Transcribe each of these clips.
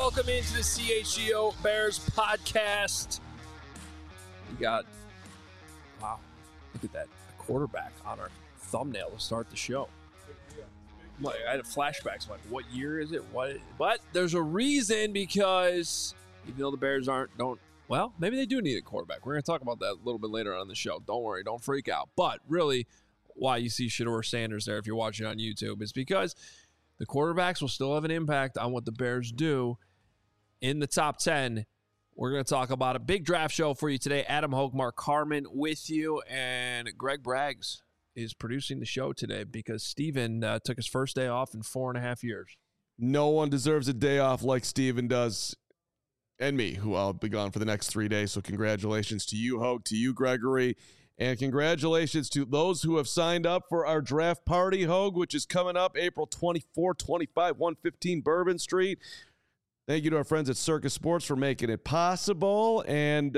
welcome into the CHGO Bears podcast. We got, wow, look at that, a quarterback on our thumbnail to start the show. I had flashbacks, like, what year is it? But there's a reason, because even though the Bears well, maybe they do need a quarterback. We're going to talk about that a little bit later on in the show. Don't worry, don't freak out. But really, why you see Shedeur Sanders there if you're watching on YouTube is because the quarterbacks will still have an impact on what the Bears do in the top 10. We're going to talk about a big draft show for you today. Adam Hoke, Mark Carman with you, and Greg Braggs is producing the show today because Steven took his first day off in 4.5 years. No one deserves a day off like Steven does, and me, who I'll be gone for the next 3 days. So congratulations to you, Hoke, to you, Gregory, and congratulations to those who have signed up for our draft party, Hogue, which is coming up April 24, 25, 115 Bourbon Street. Thank you to our friends at Circus Sports for making it possible. And,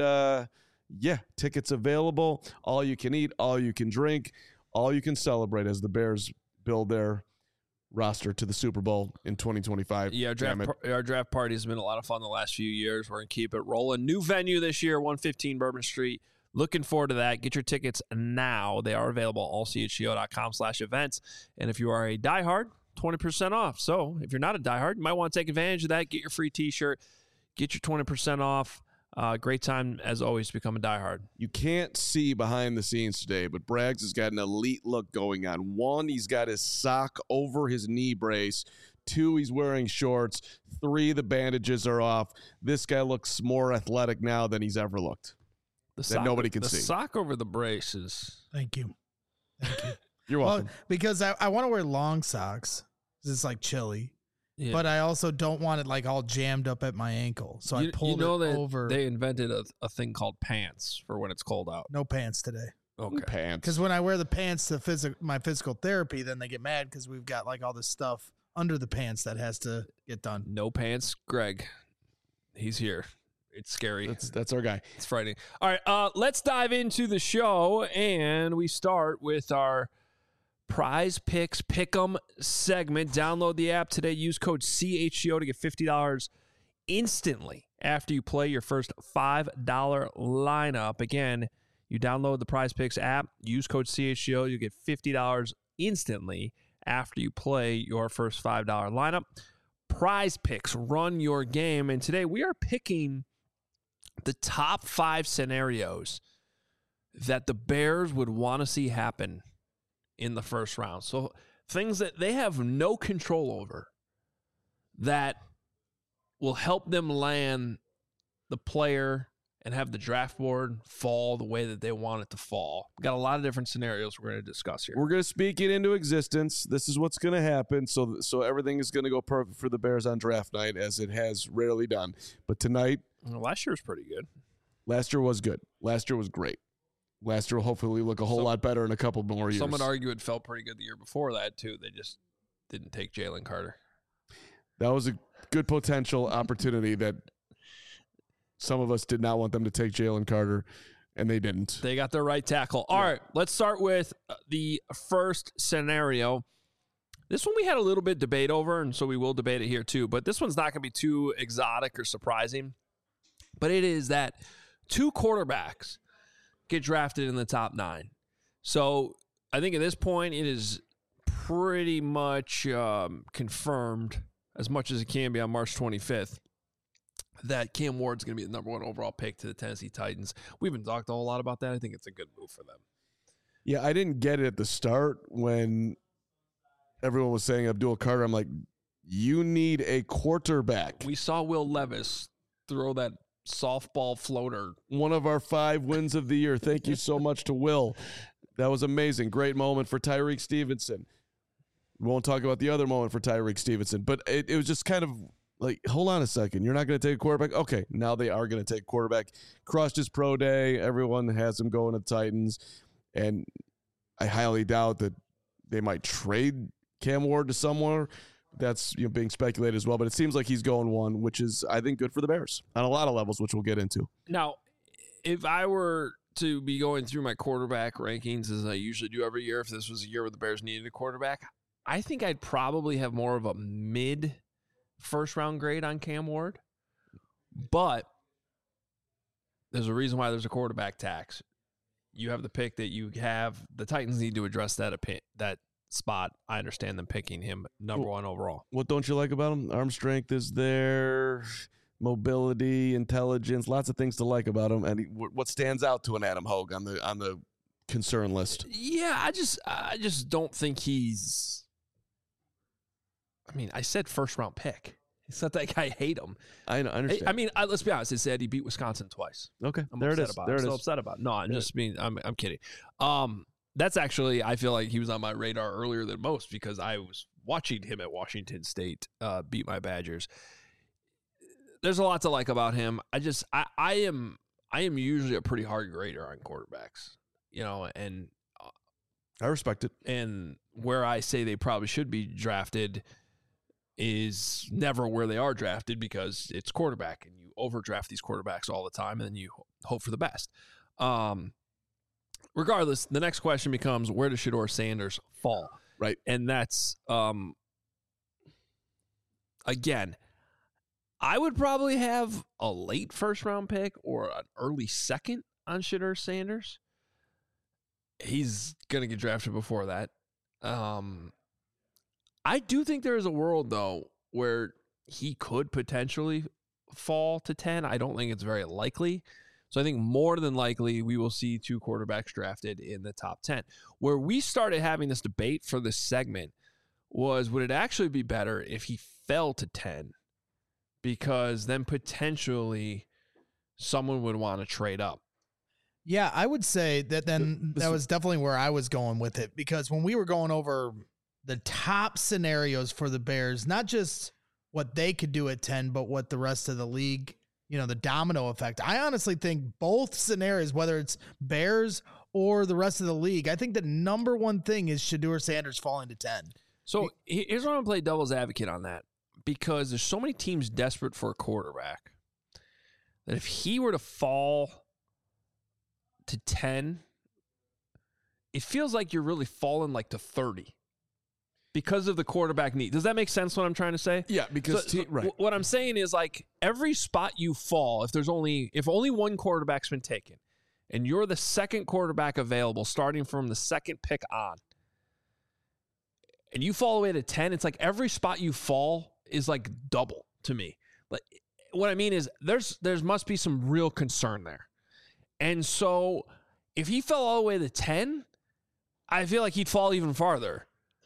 tickets available. All you can eat, all you can drink, all you can celebrate as the Bears build their roster to the Super Bowl in 2025. Yeah, our draft party has been a lot of fun the last few years. We're going to keep it rolling. New venue this year, 115 Bourbon Street. Looking forward to that. Get your tickets now. They are available at allchgo.com/events. And if you are a diehard, 20% off. So if you're not a diehard, you might want to take advantage of that. Get your free t-shirt. Get your 20% off. Great time, as always, to become a diehard. You can't see behind the scenes today, but Braggs has got an elite look going on. 1, he's got his sock over his knee brace. 2, he's wearing shorts. 3, the bandages are off. This guy looks more athletic now than he's ever looked. That nobody can see. The sock over the brace is... Thank you. You're welcome. Well, because I want to wear long socks. It's like chilly. Yeah. But I also don't want it like all jammed up at my ankle. So I pulled it over. They invented a thing called pants for when it's cold out. No pants today. Okay. Pants. Because when I wear the pants to my physical therapy, then they get mad because we've got like all this stuff under the pants that has to get done. No pants, Greg. He's here. It's scary. That's our guy. It's frightening. All right, let's dive into the show, and we start with our Prize Picks Pick'em segment. Download the app today. Use code CHGO to get $50 instantly after you play your first $5 lineup. Again, you download the Prize Picks app. Use code CHGO. You get $50 instantly after you play your first $5 lineup. Prize Picks, run your game. And today we are picking the top 5 scenarios that the Bears would want to see happen in the first round. So things that they have no control over that will help them land the player and have the draft board fall the way that they want it to fall. We've got a lot of different scenarios we're going to discuss here. We're going to speak it into existence. This is what's going to happen. So everything is going to go perfect for the Bears on draft night, as it has rarely done. But tonight... Well, last year was pretty good. Last year was good. Last year was great. Last year will hopefully look a whole lot better in a couple more years. Some would argue it felt pretty good the year before that, too. They just didn't take Jalen Carter. That was a good potential opportunity that some of us did not want them to take Jalen Carter, and they didn't. They got their right tackle. All right, let's start with the first scenario. This one we had a little bit debate over, and so we will debate it here, too. But this one's not going to be too exotic or surprising. But it is that 2 quarterbacks get drafted in the top 9. So I think at this point it is pretty much confirmed, as much as it can be on March 25th, that Cam Ward's going to be the number 1 overall pick to the Tennessee Titans. We haven't talked a whole lot about that. I think it's a good move for them. Yeah, I didn't get it at the start when everyone was saying Abdul Carter. I'm like, you need a quarterback. We saw Will Levis throw that softball floater. One of our 5 wins of the year. Thank you so much to Will. That was amazing. Great moment for Tyreek Stevenson. We won't talk about the other moment for Tyreek Stevenson, but it was just kind of like, hold on a second. You're not going to take a quarterback? Okay, now they are going to take a quarterback. Crushed his pro day. Everyone has him going to the Titans, and I highly doubt that they might trade Cam Ward to somewhere. That's being speculated as well, but it seems like he's going 1, which is, I think, good for the Bears on a lot of levels, which we'll get into. Now, if I were to be going through my quarterback rankings, as I usually do every year, if this was a year where the Bears needed a quarterback, I think I'd probably have more of a mid first-round grade on Cam Ward, but there's a reason why there's a quarterback tax. You have the pick that you have. The Titans need to address that spot. I understand them picking him number one overall. What don't you like about him? Arm strength is there, mobility, intelligence, lots of things to like about him. And what stands out to an Adam Hogue on the concern list? Yeah, I just don't think he's. I mean, I said first-round pick. It's not that I hate him. I understand. I mean, let's be honest. It said he beat Wisconsin twice. Okay, I'm there it is. I'm still upset about it. No, I'm just being. I'm kidding. That's actually, I feel like he was on my radar earlier than most because I was watching him at Washington State beat my Badgers. There's a lot to like about him. I am usually a pretty hard grader on quarterbacks, and I respect it. And where I say they probably should be drafted is never where they are drafted because it's quarterback and you overdraft these quarterbacks all the time and then you hope for the best. Regardless, the next question becomes, where does Shedeur Sanders fall? Right. And that's, again, I would probably have a late first-round pick or an early second on Shedeur Sanders. He's going to get drafted before that. I do think there is a world, though, where he could potentially fall to 10. I don't think it's very likely. So I think more than likely we will see two quarterbacks drafted in the top 10. Where we started having this debate for this segment was, would it actually be better if he fell to 10? Because then potentially someone would want to trade up. Yeah, I would say that then that was definitely where I was going with it. Because when we were going over the top scenarios for the Bears, not just what they could do at 10, but what the rest of the league, the domino effect. I honestly think both scenarios, whether it's Bears or the rest of the league, I think the number one thing is Shedeur Sanders falling to 10. So here's where I'm going to play devil's advocate on that, because there's so many teams desperate for a quarterback that if he were to fall to 10, it feels like you're really falling like to 30. Because of the quarterback need. Does that make sense what I'm trying to say? Yeah, because right. What I'm saying is, like, every spot you fall, if only one quarterback's been taken, and you're the second quarterback available starting from the second pick on, and you fall away to 10, it's like every spot you fall is like double to me. Like, what I mean is there must be some real concern there. And so if he fell all the way to 10, I feel like he'd fall even farther.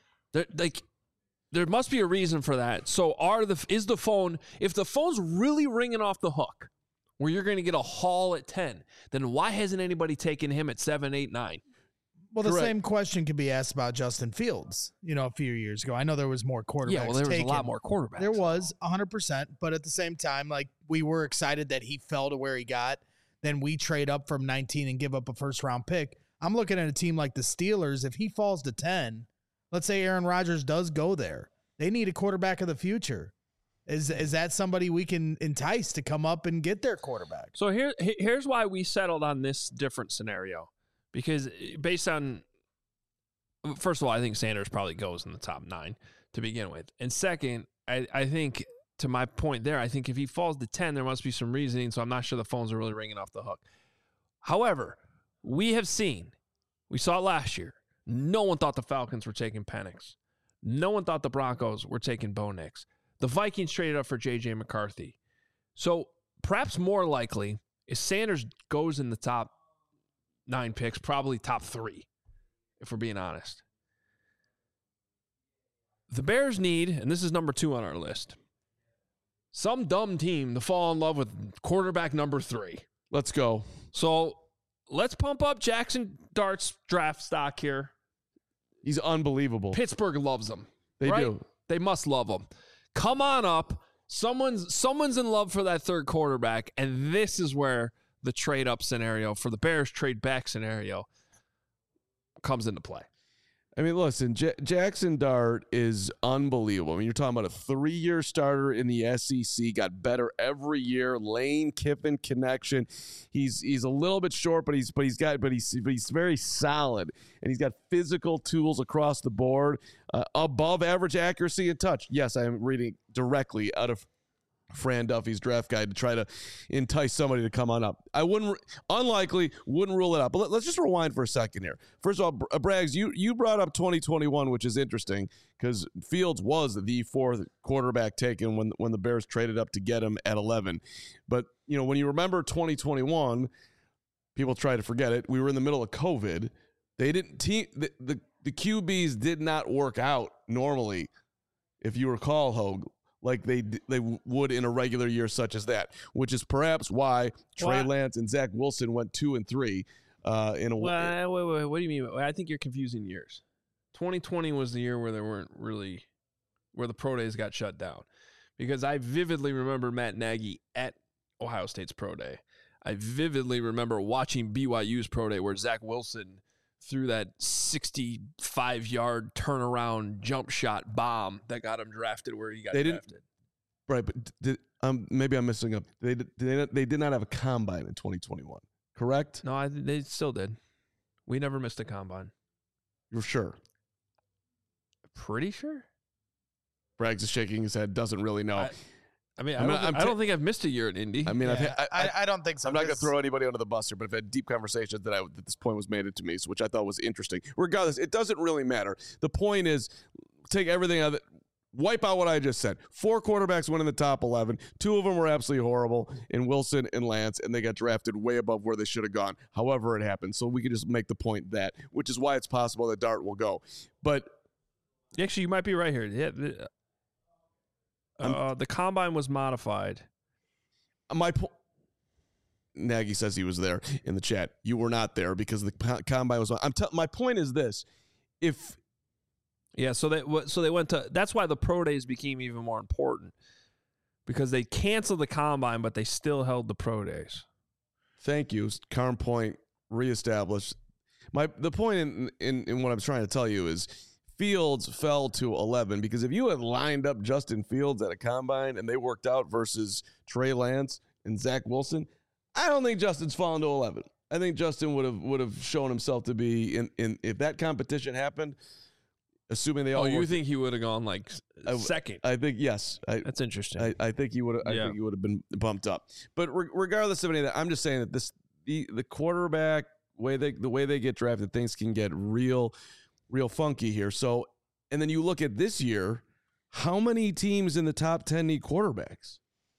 There must be a reason for that. So if the phone's really ringing off the hook where you're going to get a haul at 10, then why hasn't anybody taken him at 7, 8, 9? Well, the same question could be asked about Justin Fields, a few years ago. I know there was more quarterbacks. Yeah, well, there was a lot more quarterbacks. There was 100%, but at the same time, like, we were excited that he fell to where he got. Then we trade up from 19 and give up a first-round pick. I'm looking at a team like the Steelers. If he falls to 10, let's say Aaron Rodgers does go there, they need a quarterback of the future. Is that somebody we can entice to come up and get their quarterback? So here's why we settled on this different scenario. Because based on, first of all, I think Sanders probably goes in the top 9 to begin with. And second, I think, to my point there, I think if he falls to 10, there must be some reasoning, so I'm not sure the phones are really ringing off the hook. However, we saw it last year. No one thought the Falcons were taking Penix. No one thought the Broncos were taking Bo Nix. The Vikings traded up for J.J. McCarthy. So perhaps more likely is Sanders goes in the top 9 picks, probably top 3, if we're being honest. The Bears need, and this is number 2 on our list, some dumb team to fall in love with quarterback number 3. Let's go. So let's pump up Jackson Dart's draft stock here. He's unbelievable. Pittsburgh loves him. They do. They must love him. Come on up. Someone's in love for that third quarterback, and this is where the trade up scenario for the Bears trade back scenario comes into play. I mean, listen, Jackson Dart is unbelievable. I mean, you're talking about a 3-year starter in the SEC, got better every year. Lane Kiffin connection. He's a little bit short, but he's very solid, and he's got physical tools across the board, above average accuracy and touch. Yes, I am reading directly out of Fran Duffy's draft guide to try to entice somebody to come on up. I wouldn't rule it out. But let's just rewind for a second here. First of all, Braggs, you brought up 2021, which is interesting because Fields was the 4th quarterback taken when the Bears traded up to get him at 11. But when you remember 2021, people try to forget it. We were in the middle of COVID. They didn't the QBs did not work out normally, if you recall, Hogue, like they would in a regular year such as that, which is perhaps why Trey Lance and Zach Wilson went 2 and 3 in a way. Wait, what do you mean? I think you're confusing years. 2020 was the year where where the pro days got shut down, because I vividly remember Matt Nagy at Ohio State's pro day. I vividly remember watching BYU's pro day where Zach Wilson threw that 65-yard turnaround jump shot bomb that got him drafted where he got drafted. Right, but maybe I'm messing up. They did not have a combine in 2021, correct? No, they still did. We never missed a combine. You're sure? Pretty sure. Braggs is shaking his head, doesn't really know. I don't think I've missed a year at Indy. I mean, I don't think so. I'm not going to throw anybody under the bus here, but I've had deep conversations that this point was made to me, which I thought was interesting. Regardless, it doesn't really matter. The point is, take everything out of it, wipe out what I just said. 4 quarterbacks went in the top 11. 2 of them were absolutely horrible, in Wilson and Lance, and they got drafted way above where they should have gone. However it happened, so we could just make the point that, which is why it's possible that Dart will go. But actually, you might be right here. Yeah. The combine was modified. Nagy says he was there in the chat. You were not there because the combine was. My point is this: so they went to. That's why the pro days became even more important, because they canceled the combine, but they still held the pro days. Thank you, Carm Point reestablished. The point in what I'm trying to tell you is, Fields fell to 11 because if you had lined up Justin Fields at a combine and they worked out versus Trey Lance and Zach Wilson, I don't think Justin's fallen to 11. I think Justin would have shown himself to be in if that competition happened, assuming they all. Oh, you think he would have gone like second? I think yes. That's interesting. I think he would. I think he would have been bumped up. But regardless of any of that, I'm just saying that the quarterback the way they get drafted, things can get real funky here. So, and then you look at this year, how many teams in the top 10 need quarterbacks?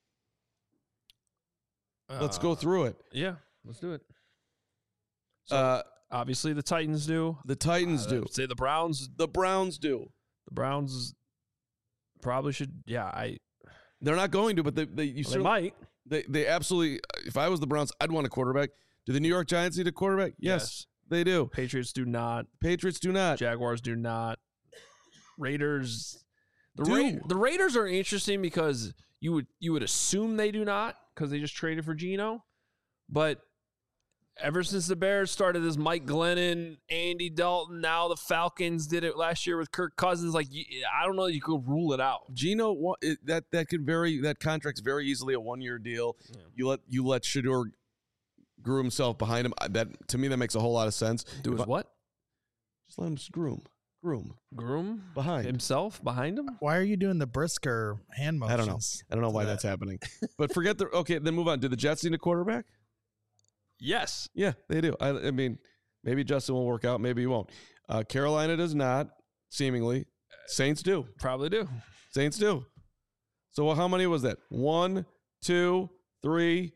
Let's go through it. Yeah, let's do it. So, obviously the Titans do. The Titans do. Say the Browns. The Browns do. The Browns probably should. Yeah, they're not going to, but they might. They absolutely. If I was the Browns, I'd want a quarterback. Do the New York Giants need a quarterback? Yes. They do. Patriots do not. Jaguars do not. Raiders. The Raiders are interesting because you would assume they do not, because they just traded for Geno. But ever since the Bears started this Mike Glennon, Andy Dalton, now the Falcons did it last year with Kirk Cousins. Like, I don't know, you could rule it out. Geno, that could vary. That contract's very easily a 1-year deal. Yeah. You let Shedeur grew himself behind him. That, to me, that makes a whole lot of sense. What? Just let him groom behind himself, behind him. Why are you doing the Brisker hand motions? I don't know why that's happening. But forget then move on. Do the Jets need a quarterback? Yes. Yeah, they do. I mean, maybe Justin will work out, maybe he won't. Carolina does not, seemingly. Saints do. Probably do. Saints do. So how many was that? 1, 2, 3,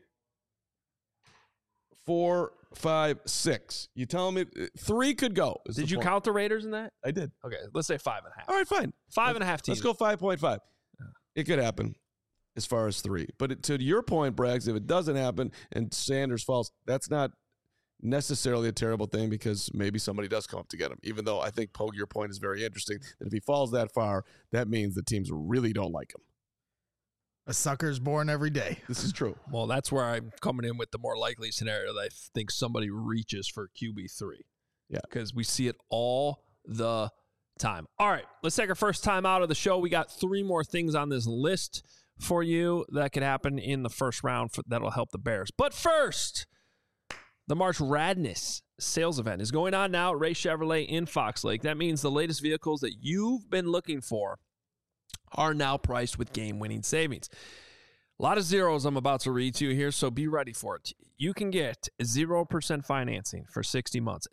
4, 5, 6. You telling me 3 could go? Did you count the Raiders in that? I did. Okay, let's say 5.5. All right, fine. 5.5 teams. Let's go 5.5. It could happen as far as 3. But to your point, Braggs, if it doesn't happen and Sanders falls, that's not necessarily a terrible thing, because maybe somebody does come up to get him. Even though I think, Pogue, your point is very interesting, that if he falls that far, that means the teams really don't like him. A sucker's born every day. This is true. Well, that's where I'm coming in with the more likely scenario that I think somebody reaches for QB3. Yeah. Because we see it all the time. All right, let's take our first time out of the show. We got 3 more things on this list for you that could happen in the first round that'll help the Bears. But first, the March Radness sales event is going on now at Ray Chevrolet in Fox Lake. That means the latest vehicles that you've been looking for are now priced with game-winning savings. A lot of zeros I'm about to read to you here, so be ready for it. You can get 0% financing for 60 months,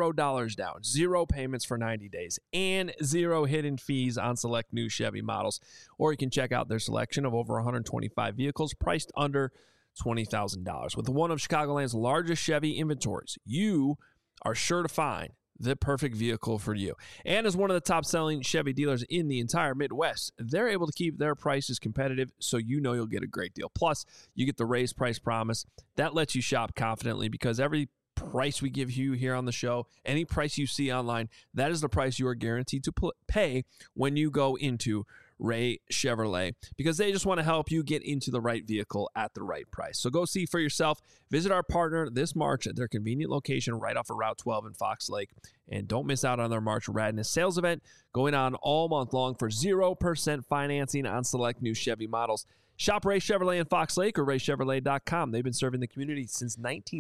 $0 down, 0 payments for 90 days, and 0 hidden fees on select new Chevy models. Or you can check out their selection of over 125 vehicles priced under $20,000. With one of Chicagoland's largest Chevy inventories, you are sure to find the perfect vehicle for you. And as one of the top-selling Chevy dealers in the entire Midwest, they're able to keep their prices competitive, so you know you'll get a great deal. Plus, you get the raised price promise. That lets you shop confidently because every price we give you here on the show, any price you see online, that is the price you are guaranteed to pay when you go into Ray Chevrolet, because they just want to help you get into the right vehicle at the right price. So go see for yourself. Visit our partner this March at their convenient location right off of Route 12 in Fox Lake. And don't miss out on their March Radness sales event going on all month long for 0% financing on select new Chevy models. Shop Ray Chevrolet in Fox Lake or raychevrolet.com. They've been serving the community since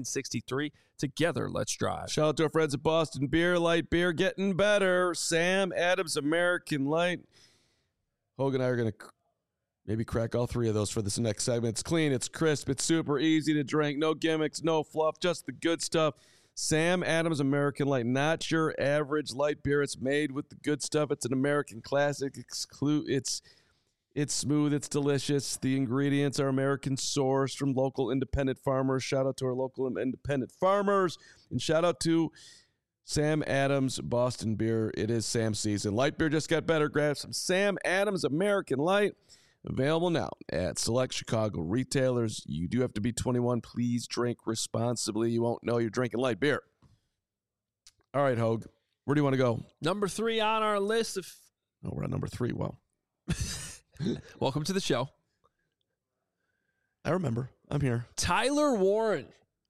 1963. Together, let's drive. Shout out to our friends at Boston Beer, light beer getting better. Sam Adams American Light. Hogan and I are going to maybe crack all 3 of those for this next segment. It's clean, it's crisp, it's super easy to drink. No gimmicks, no fluff, just the good stuff. Sam Adams American Light, not your average light beer. It's made with the good stuff. It's an American classic. It's smooth, it's delicious. The ingredients are American sourced from local independent farmers. Shout out to our local independent farmers. And shout out to Sam Adams Boston Beer. It is Sam season. Light beer just got better. Grab some Sam Adams American Light. Available now at select Chicago retailers. You do have to be 21. Please drink responsibly. You won't know you're drinking light beer. All right, Hogue. Where do you want to go? Number 3 on our list of... Oh, we're on number 3. Wow. Welcome to the show. I remember. I'm here. Tyler Warren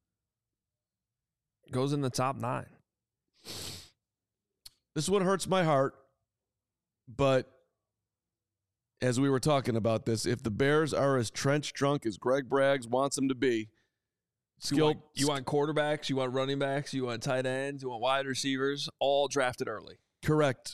goes in the top 9. This is what hurts my heart, but as we were talking about this, if the Bears are as trench drunk as Greg Braggs wants them to be, you want quarterbacks, you want running backs, you want tight ends, you want wide receivers, all drafted early. Correct.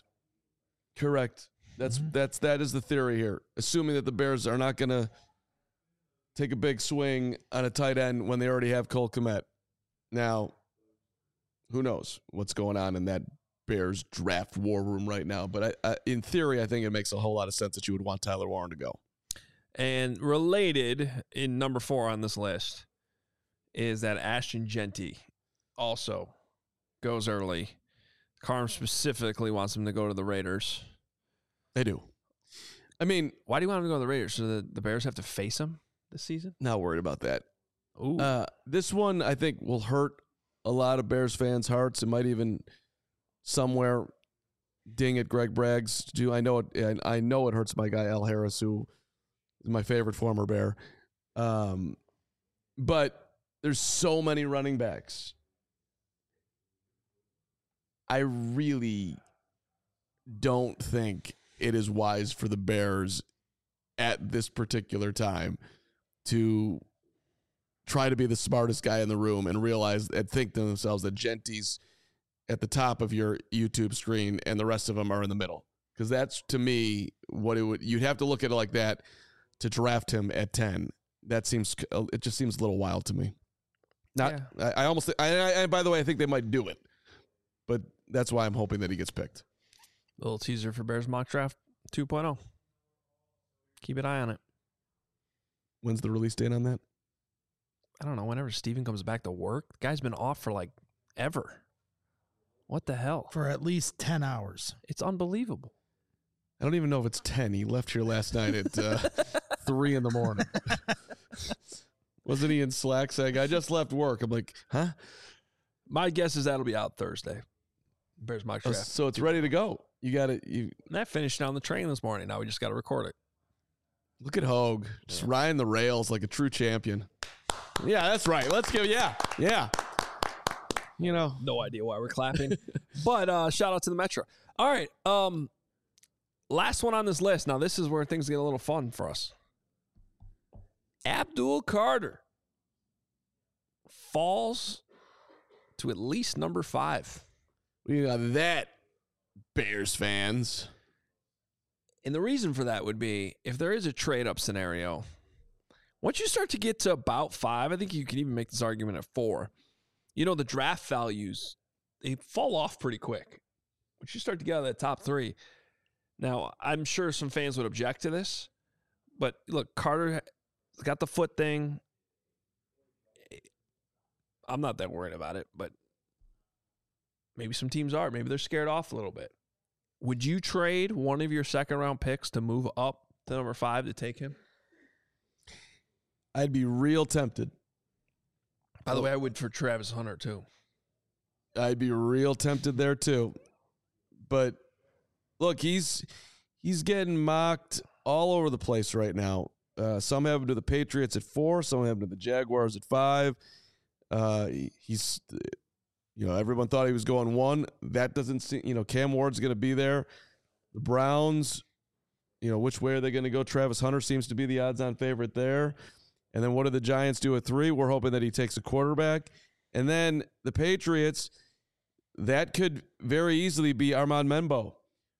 That is the theory here. Assuming that the Bears are not going to take a big swing on a tight end when they already have Cole Kmet. Now, who knows what's going on in that Bears draft war room right now. But in theory, I think it makes a whole lot of sense that you would want Tyler Warren to go. And related in number 4 on this list is that Ashton Jeanty also goes early. Carm specifically wants him to go to the Raiders. They do. I mean, why do you want him to go to the Raiders? So the Bears have to face him this season? Not worried about that. Ooh. This one, I think, will hurt a lot of Bears fans' hearts. It might even somewhere ding at Greg Braggs. I know it hurts my guy Al Harris, who is my favorite former Bear. But there's so many running backs. I really don't think it is wise for the Bears at this particular time to try to be the smartest guy in the room and realize and think to themselves that Jeanty's at the top of your YouTube screen and the rest of them are in the middle. Because that's, to me, what you'd have to look at it like that to draft him at 10. It just seems a little wild to me. By the way, I think they might do it, but that's why I'm hoping that he gets picked. Little teaser for Bears Mock Draft 2.0. Keep an eye on it. When's the release date on that? I don't know. Whenever Steven comes back to work. The guy's been off for ever. What the hell? For at least 10 hours. It's unbelievable. I don't even know if it's 10. He left here last night at 3 in the morning. Wasn't he in Slack saying, I just left work? I'm like, huh? My guess is that'll be out Thursday. Bears Mock Draft. So it's ready to go. You got it. That finished on the train this morning. Now we just got to record it. Look at Hogue. Just riding the rails like a true champion. Yeah, that's right. Let's go. Yeah. You know, No idea why we're clapping. But shout out to the Metro. All right. Last one on this list. Now, this is where things get a little fun for us. Abdul Carter falls to at least number 5. we got that, Bears fans. And the reason for that would be if there is a trade-up scenario, once you start to get to about 5, I think you can even make this argument at 4. You know, the draft values, they fall off pretty quick. Once you start to get out of that top 3. Now, I'm sure some fans would object to this, but look, Carter got the foot thing. I'm not that worried about it, but maybe some teams are. Maybe they're scared off a little bit. Would you trade one of your second-round picks to move up to number 5 to take him? I'd be real tempted. By the way, I would for Travis Hunter, too. I'd be real tempted there, too. But look, he's getting mocked all over the place right now. Some have him to the Patriots at 4. Some have him to the Jaguars at 5. He's, everyone thought he was going 1. That doesn't seem, Cam Ward's going to be there. The Browns, which way are they going to go? Travis Hunter seems to be the odds-on favorite there. And then what do the Giants do at 3? We're hoping that he takes a quarterback. And then the Patriots, that could very easily be Armand Membo.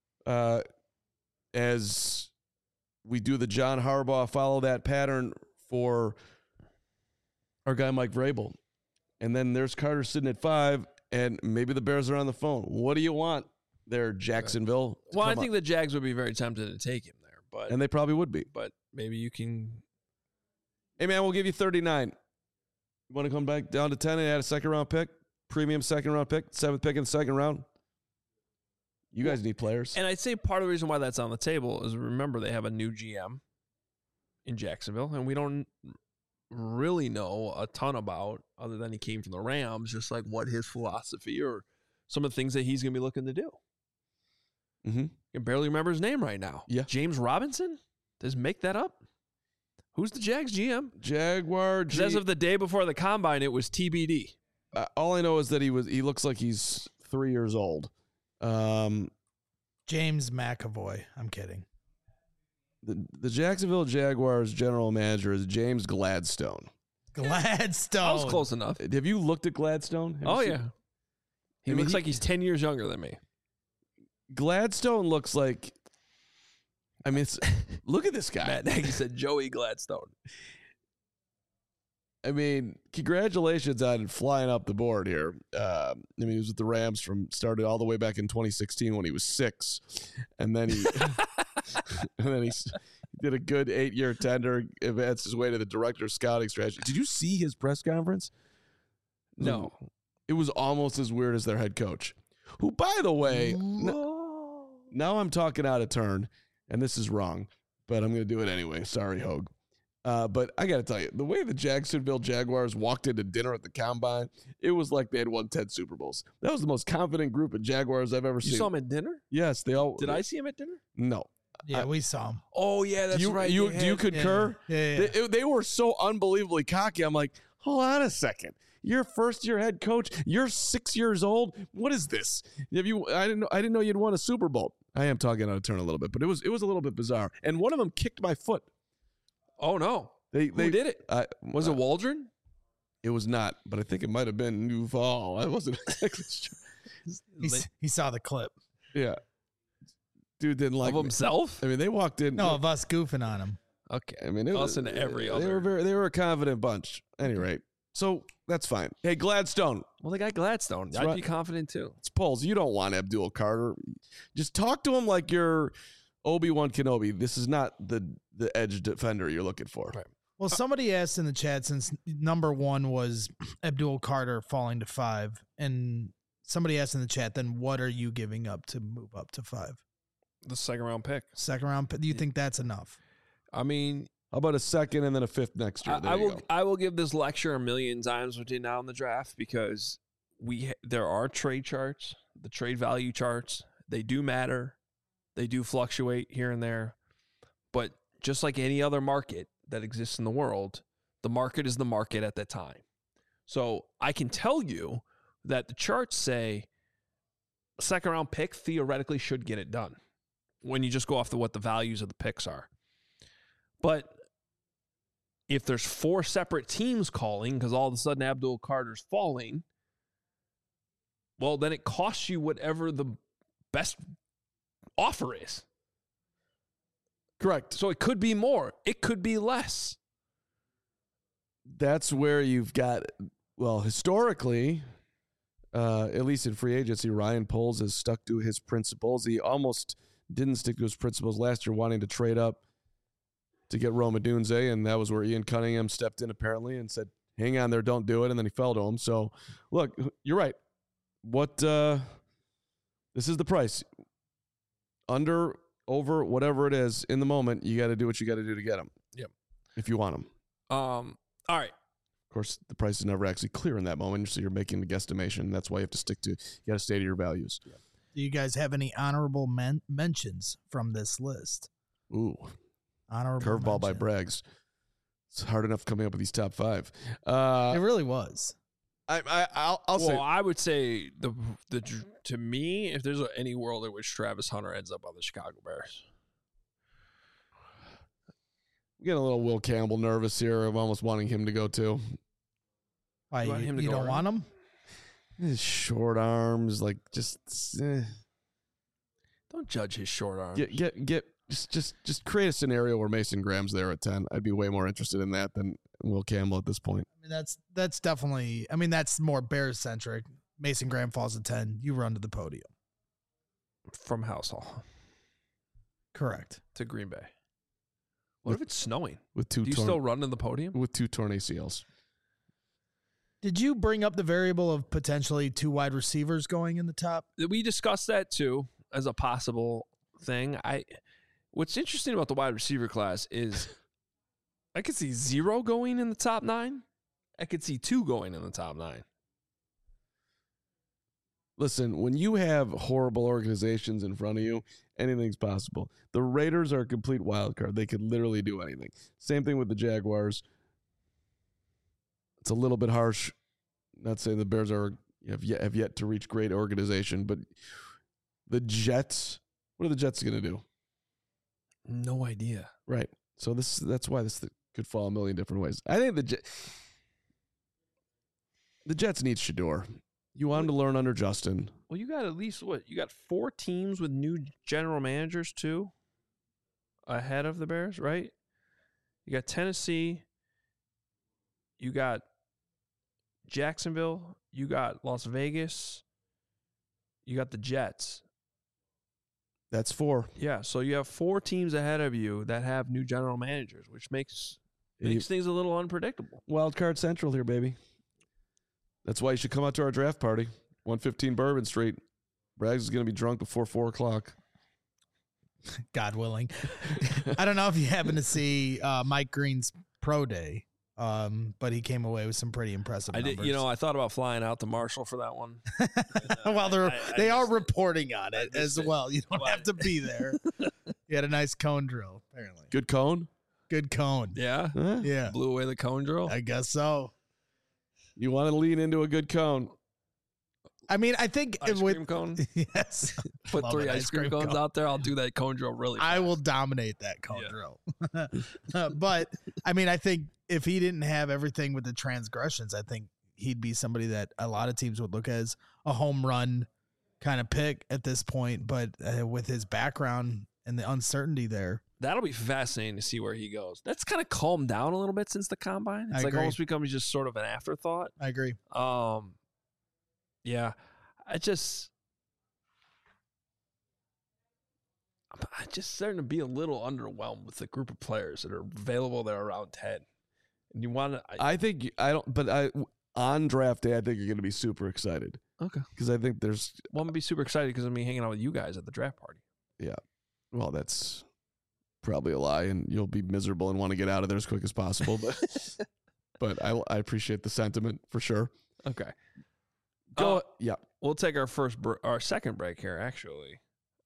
As we do the John Harbaugh, follow that pattern for our guy Mike Vrabel. And then there's Carter sitting at 5, and maybe the Bears are on the phone. What do you want there, Jacksonville? Well, I think the Jags would be very tempted to take him there. And they probably would be. But maybe you can... Hey, man, we'll give you 39. You want to come back down to 10 and add a second-round pick? Premium second-round pick? 7th pick in the second round? You guys need players. And I'd say part of the reason why that's on the table is, remember, they have a new GM in Jacksonville, and we don't really know a ton about, other than he came from the Rams, just like what his philosophy or some of the things that he's going to be looking to do. Mm-hmm. I can barely remember his name right now. Yeah. James Robinson? Does make that up? Who's the Jags GM? Jaguar. As of the day before the combine, it was TBD. All I know is that he looks like he's 3 years old. James McAvoy. I'm kidding. The Jacksonville Jaguars general manager is James Gladstone. Gladstone. I was close enough. Have you looked at Gladstone? Yeah. He looks like he's 10 years younger than me. Gladstone looks like... look at this guy. Matt Nagy said Joey Gladstone. Congratulations on flying up the board here. He was with the Rams started all the way back in 2016 when he was 6. And then he he did a good 8-year tender, advanced his way to the director of scouting strategy. Did you see his press conference? No. It was almost as weird as their head coach, who, by the way, now I'm talking out of turn, and this is wrong, but I'm going to do it anyway. Sorry, Hogue. But I got to tell you, the way the Jacksonville Jaguars walked into dinner at the Combine, it was like they had won 10 Super Bowls. That was the most confident group of Jaguars I've ever seen. You saw him at dinner? Yes, they all. Did I see him at dinner? No. Yeah, we saw him. Oh, yeah, that's right. Do you concur? Yeah. They were so unbelievably cocky. I'm like, hold on a second. You're first-year head coach. You're 6 years old. What is this? I didn't know you'd won a Super Bowl. I am talking out of turn a little bit, but it was a little bit bizarre. And one of them kicked my foot. Oh, no. Who did it? Was it Waldron? It was not, but I think it might have been Duval. I wasn't exactly sure. He saw the clip. Yeah. Dude didn't like of himself? They walked in. No, of us goofing on him. Okay. It us and every other. They were a confident bunch. At any rate. So that's fine. Hey, Gladstone. Well, they got Gladstone. I'd be confident too. It's Poles. You don't want Abdul Carter. Just talk to him like you're Obi-Wan Kenobi. This is not the edge defender you're looking for. Right. Well, somebody asked in the chat, since number 1 was Abdul Carter falling to 5, and somebody asked in the chat, then what are you giving up to move up to 5? The second-round pick. Second round pick. Do you think that's enough? How about a second and then a 5th next year? I will give this lecture a million times between now and the draft, because there are trade charts, the trade value charts. They do matter. They do fluctuate here and there. But just like any other market that exists in the world, the market is the market at that time. So I can tell you that the charts say a second round pick theoretically should get it done when you just go off what the values of the picks are. But if there's 4 separate teams calling because all of a sudden Abdul Carter's falling, well, then it costs you whatever the best offer is. Correct. So it could be more. It could be less. That's where you've got, well, historically, at least in free agency, Ryan Poles has stuck to his principles. He almost didn't stick to his principles last year, wanting to trade up to get Rome Odunze, and that was where Ian Cunningham stepped in apparently and said, hang on there, don't do it, and then he fell to him. So, look, you're right. This is the price. Under, over, whatever it is, in the moment, you got to do what you got to do to get them. Yep. If you want them. All right. Of course, the price is never actually clear in that moment, so you're making the guesstimation. That's why you have to stick to, you got to stay to your values. Do you guys have any honorable mentions from this list? Ooh. Honorable Curveball by mention. Braggs. It's hard enough coming up with these top 5. It really was. I'll say. Well, I would say to me, if there's any world in which Travis Hunter ends up on the Chicago Bears. I'm getting a little Will Campbell nervous here. I'm almost wanting him to go too. Why, You want him to you go don't early? want him? His short arms, like just Don't judge his short arms. just create a scenario where Mason Graham's there at 10. I'd be way more interested in that than Will Campbell at this point. I mean, that's definitely. I mean, that's more Bears centric. Mason Graham falls at 10. You run to the podium. From House Hall Correct. to Green Bay. What if it's snowing? With two Do you still run to the podium? with 2 torn ACLs. Did you bring up the variable of potentially 2 wide receivers going in the top? We discussed that too as a possible thing. What's interesting about the wide receiver class is I could see 0 going in the top 9. I could see 2 going in the top 9. Listen, when you have horrible organizations in front of you, anything's possible. The Raiders are a complete wild card. They could literally do anything. Same thing with the Jaguars. It's a little bit harsh. Not saying the Bears have yet to reach great organization, but the Jets, what are the Jets going to do? No idea. Right. So that's why this could fall a million different ways. I think the Jets need Shador. You want him to learn under Justin. Well, you got at least what? You got 4 teams with new general managers too ahead of the Bears, right? You got Tennessee. You got Jacksonville. You got Las Vegas. You got the Jets. That's 4. Yeah, so you have 4 teams ahead of you that have new general managers, which makes things a little unpredictable. Wild card central here, baby. That's why you should come out to our draft party, 115 Bourbon Street. Braggs is going to be drunk before 4 o'clock. God willing. I don't know if you happen to see Mike Green's pro day, but he came away with some pretty impressive I numbers. did, I thought about flying out to Marshall for that one. Well, they are just- reporting on it as just- well. You don't What? have to be there. You had a nice cone drill, apparently. Good cone? Good cone. Yeah, Huh? Yeah, blew away the cone drill. I guess so. You want to lean into a good cone. I mean, I think Ice with cream cone. yes, Put Love 3 an ice cream cones cone. out there. I'll do that cone drill really fast. I will dominate that cone Yeah. drill. But I mean, I think if he didn't have everything with the transgressions, I think he'd be somebody that a lot of teams would look at as a home run kind of pick at this point. But with his background and the uncertainty there, That'll be fascinating to see where he goes. That's kind of calmed down a little bit since the combine. It's I like agree. almost becomes just sort of an afterthought. I agree. Yeah, I'm just starting to be a little underwhelmed with the group of players that are available there around 10. And you want to, on draft day, I think you're going to be super excited. Okay. Because I think there's, well, I'm going to be super excited because I'm going to be hanging out with you guys at the draft party. well, that's probably a lie, and you'll be miserable and want to get out of there as quick as possible. But I appreciate the sentiment for sure. Okay. Go. Yeah. We'll take our second break here, actually.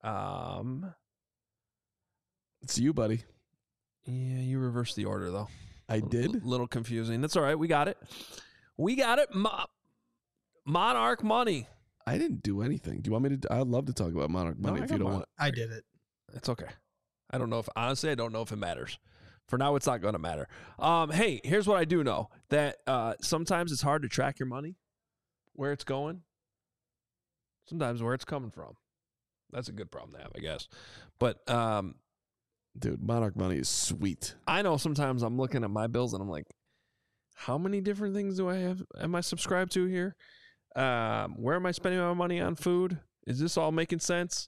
It's you, buddy. Yeah, you reversed the order, though. I did. Little confusing. That's all right. We got it. Monarch Money. I didn't do anything. Do you want me to? I'd love to talk about Monarch No, Money I if you got don't mine. want. I did it. It's okay. I don't know if, honestly, I don't know if it matters. For now, it's not going to matter. Hey, here's what I do know. That sometimes it's hard to track your money, where it's going, sometimes where it's coming from. That's a good problem to have, I guess. But, Dude, Monarch Money is sweet. I know sometimes I'm looking at my bills and I'm like, how many different things am I subscribed to here? Where am I spending my money on food? Is this all making sense?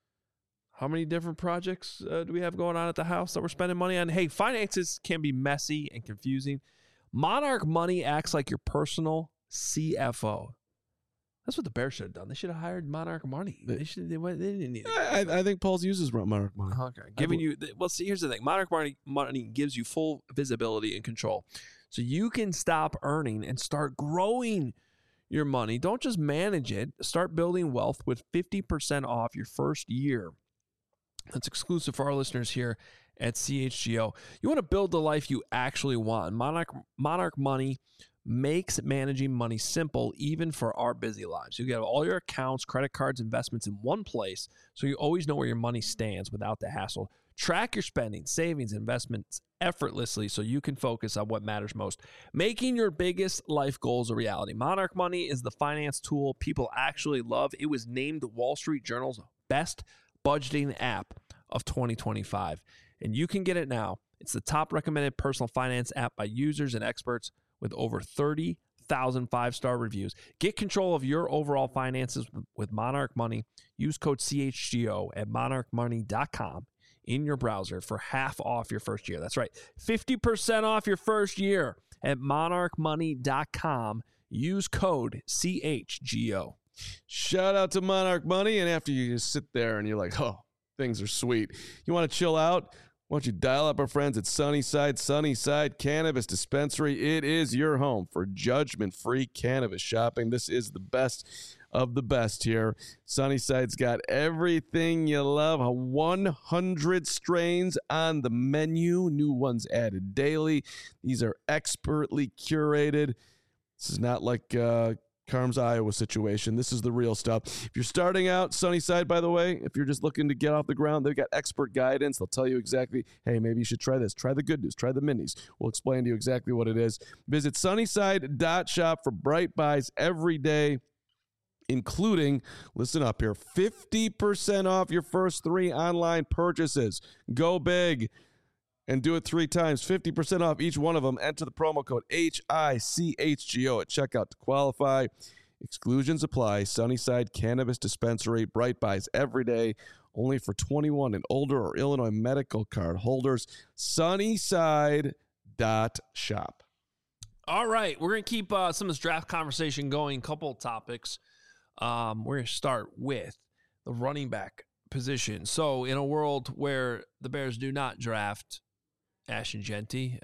How many different projects do we have going on at the house that we're spending money on? Hey, finances can be messy and confusing. Monarch Money acts like your personal CFO. That's what the Bears should have done. They should have hired Monarch Money. They didn't need it. I think Paul's uses Monarch Money. Okay. See, here's the thing. Monarch Money gives you full visibility and control. So you can stop earning and start growing your money. Don't just manage it. Start building wealth with 50% off your first year. That's exclusive for our listeners here at CHGO. You want to build the life you actually want. Monarch Money makes managing money simple, even for our busy lives. You get all your accounts, credit cards, investments in one place, so you always know where your money stands without the hassle. Track your spending, savings, investments effortlessly so you can focus on what matters most. Making your biggest life goals a reality. Monarch Money is the finance tool people actually love. It was named the Wall Street Journal's best budgeting app of 2025, and you can get it now. It's the top recommended personal finance app by users and experts with over 30,000 five-star reviews. Get control of your overall finances with Monarch Money. Use code CHGO at monarchmoney.com in your browser for half off your first year. That's right, 50% off your first year at monarchmoney.com. Use code CHGO. Shout out to Monarch Money. And after you just sit there and you're like, oh, things are sweet. You want to chill out? Why don't you dial up our friends at Sunnyside Cannabis Dispensary? It is your home for judgment-free cannabis shopping. This is the best of the best here. Sunnyside's got everything you love. 100 strains on the menu. New ones added daily. These are expertly curated. This is not like Carm's Iowa situation. This is the real stuff. If you're starting out, Sunnyside, by the way, if you're just looking to get off the ground, they've got expert guidance. They'll tell you exactly, hey, maybe you should try this. Try the good news. Try the minis. We'll explain to you exactly what it is. Visit sunnyside.shop for bright buys every day, including, listen up here, 50% off your first 3 online purchases. Go big and do it 3 times. 50% off each one of them. Enter the promo code HICHGO at checkout to qualify. Exclusions apply. Sunnyside Cannabis Dispensary. Bright buys every day. Only for 21 and older or Illinois medical card holders. Sunnyside.shop. All right. We're going to keep some of this draft conversation going. Couple of topics. We're going to start with the running back position. So in a world where the Bears do not draft Ashton Jeanty,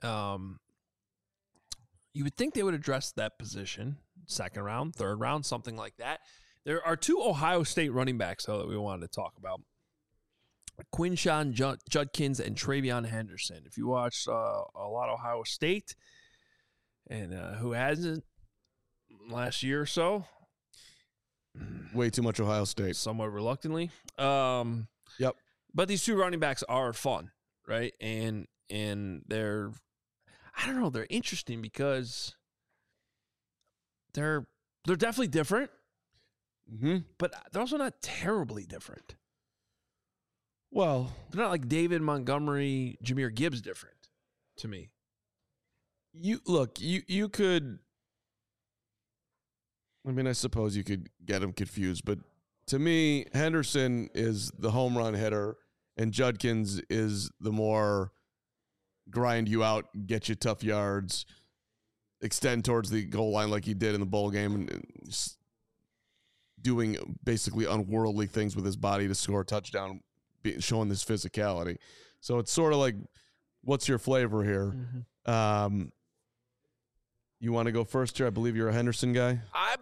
you would think they would address that position, 2nd round, 3rd round, something like that. There are 2 Ohio State running backs, though, that we wanted to talk about. Quinshawn Judkins and TreVeyon Henderson. If you watched a lot of Ohio State, and who hasn't last year or so? Way too much Ohio State. Somewhat reluctantly. Yep. But these 2 running backs are fun, right? And they're, I don't know, they're interesting because they're definitely different, but they're also not terribly different. Well, they're not like David Montgomery, Jahmyr Gibbs different to me. You could, I mean, I suppose you could get them confused, but to me, Henderson is the home run hitter and Judkins is the more grind you out, get you tough yards, extend towards the goal line like he did in the bowl game, and just doing basically unworldly things with his body to score a touchdown, showing this physicality. So it's sort of like, what's your flavor here? Mm-hmm. You want to go first here? I believe you're a Henderson guy.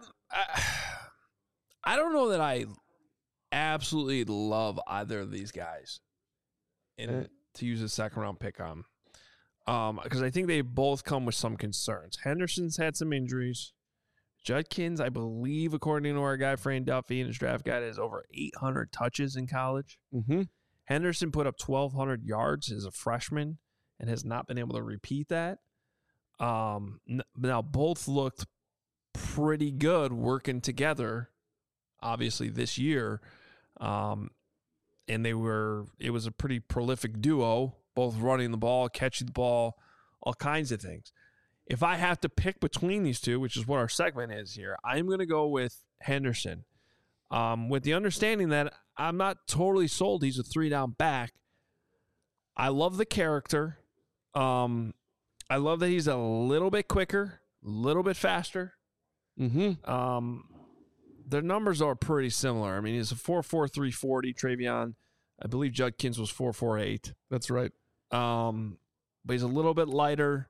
I don't know that I absolutely love either of these guys, and to use a 2nd round pick on. Because I think they both come with some concerns. Henderson's had some injuries. Judkins, I believe, according to our guy Fran Duffy in his draft guide, has over 800 touches in college. Mm-hmm. Henderson put up 1,200 yards as a freshman and has not been able to repeat that. Now, both looked pretty good working together, obviously, this year. And it was a pretty prolific duo, both running the ball, catching the ball, all kinds of things. If I have to pick between these two, which is what our segment is here, I'm going to go with Henderson. With the understanding that I'm not totally sold he's a 3-down back. I love the character. I love that he's a little bit quicker, a little bit faster. Mm-hmm. Their numbers are pretty similar. I mean, he's a 4.43 340. Travion, I believe Judkins was 4.48. That's right. But he's a little bit lighter.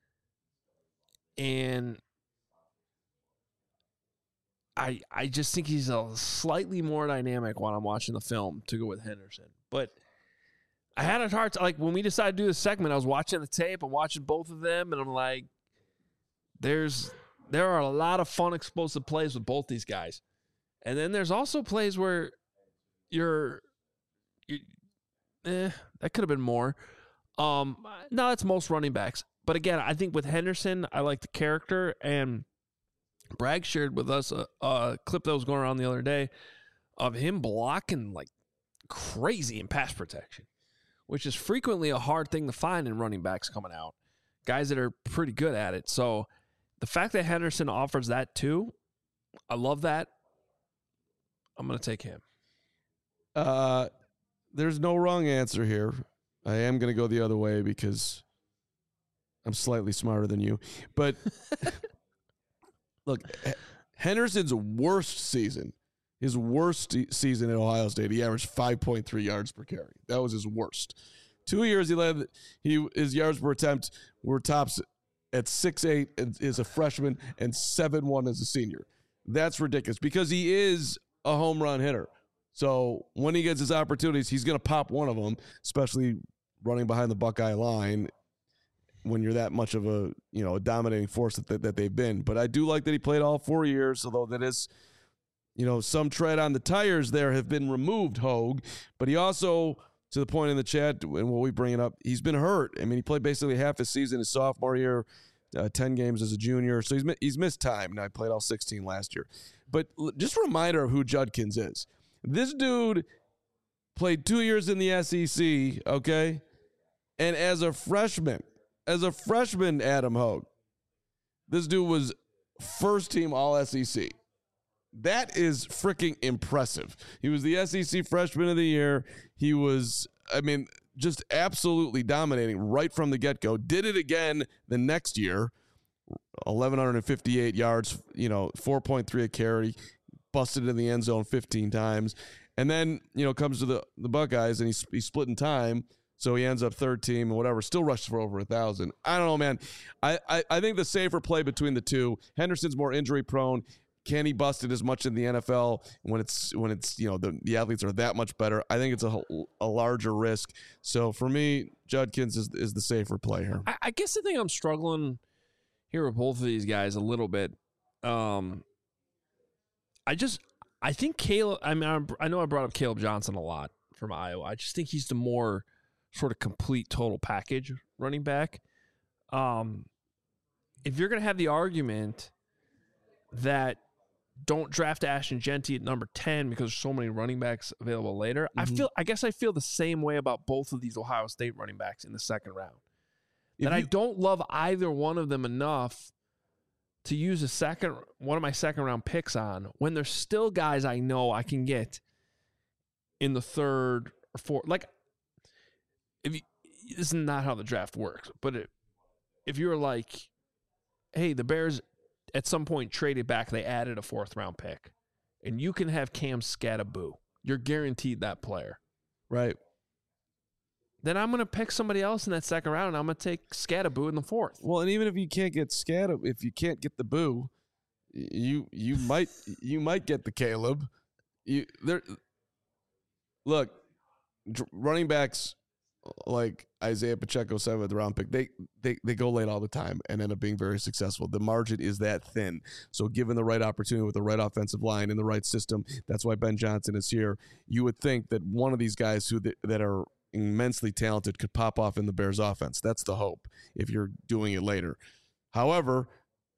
And I just think he's a slightly more dynamic when I'm watching the film to go with Henderson. But I had a hard time. Like, when we decided to do this segment, I was watching the tape. I'm watching both of them, and I'm like, there are a lot of fun, explosive plays with both these guys. And then there's also plays where that could have been more. No, that's most running backs. But again, I think with Henderson, I like the character. And Bragg shared with us a clip that was going around the other day of him blocking like crazy in pass protection, which is frequently a hard thing to find in running backs coming out. Guys that are pretty good at it. So the fact that Henderson offers that too, I love that. I'm going to take him. There's no wrong answer here. I am going to go the other way because I'm slightly smarter than you. But look, Henderson's worst season, his worst season at Ohio State, he averaged 5.3 yards per carry. That was his worst. 2 years his yards per attempt were tops at 6.8 as a freshman and 7.1 as a senior. That's ridiculous because he is a home run hitter. So when he gets his opportunities, he's going to pop one of them, especially running behind the Buckeye line when you're that much of a dominating force that they've been. But I do like that he played all 4 years, although that is, some tread on the tires there have been removed, Hogue. But he also, to the point in the chat, and what we bring it up, he's been hurt. I mean, he played basically half his season his sophomore year, 10 games as a junior. So he's missed time. Now, he played all 16 last year. But just a reminder of who Judkins is. This dude played 2 years in the SEC, okay? And as a freshman, Adam Hogue, this dude was first team All-SEC. That is freaking impressive. He was the SEC Freshman of the Year. He was, just absolutely dominating right from the get-go. Did it again the next year, 1,158 yards, 4.3 a carry, busted in the end zone 15 times. And then, comes to the Buckeyes, and he's splitting time. So he ends up third team and whatever, still rushes for over 1,000. I don't know, man. I think the safer play between the two, Henderson's more injury prone. Can he bust it as much in the NFL when it's the athletes are that much better? I think it's a larger risk. So for me, Judkins is the safer play here. I guess the thing I'm struggling here with both of these guys a little bit. I think Caleb. I know I brought up Caleb Johnson a lot from Iowa. I just think he's the more sort of complete total package running back. If you're going to have the argument that don't draft Ashton Jeanty at number 10 because there's so many running backs available later, Mm-hmm. I guess I feel the same way about both of these Ohio State running backs in the second round. I don't love either one of them enough to use one of my second round picks on when there's still guys I know I can get in the third or fourth. Like, this is not how the draft works, but if you're like, hey, the Bears at some point traded back, they added a 4th round pick, and you can have Cam Skattebo, you're guaranteed that player. Right. Then I'm going to pick somebody else in that second round, and I'm going to take Skattebo in the 4th. Well, and even if you can't get if you can't get the Boo, you might get the Caleb. Running backs like Isaiah Pacheco, 7th round pick, they go late all the time and end up being very successful. The margin is that thin. So given the right opportunity with the right offensive line in the right system, that's why Ben Johnson is here. You would think that one of these guys that are immensely talented could pop off in the Bears offense. That's the hope if you're doing it later. However,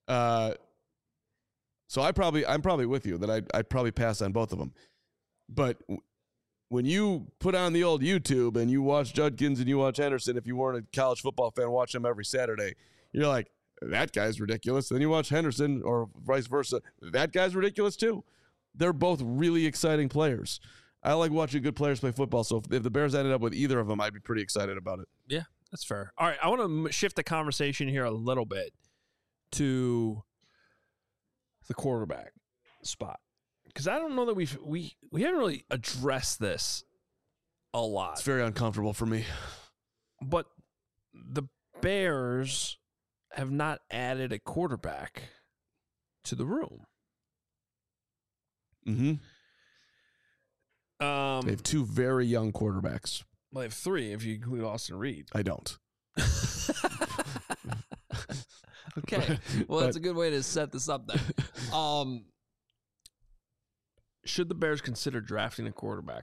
so I'm probably with you that I'd probably pass on both of them. But when you put on the old YouTube and you watch Judkins and you watch Henderson, if you weren't a college football fan, watch them every Saturday, you're like, that guy's ridiculous. Then you watch Henderson or vice versa. That guy's ridiculous too. They're both really exciting players. I like watching good players play football. So if the Bears ended up with either of them, I'd be pretty excited about it. Yeah, that's fair. All right, I want to shift the conversation here a little bit to the quarterback spot. Because I don't know that we haven't really addressed this a lot. It's very uncomfortable for me. But the Bears have not added a quarterback to the room. Mm-hmm. They have 2 very young quarterbacks. Well, they have 3 if you include Austin Reed. I don't. Okay. Well, that's a good way to set this up then. Should the Bears consider drafting a quarterback?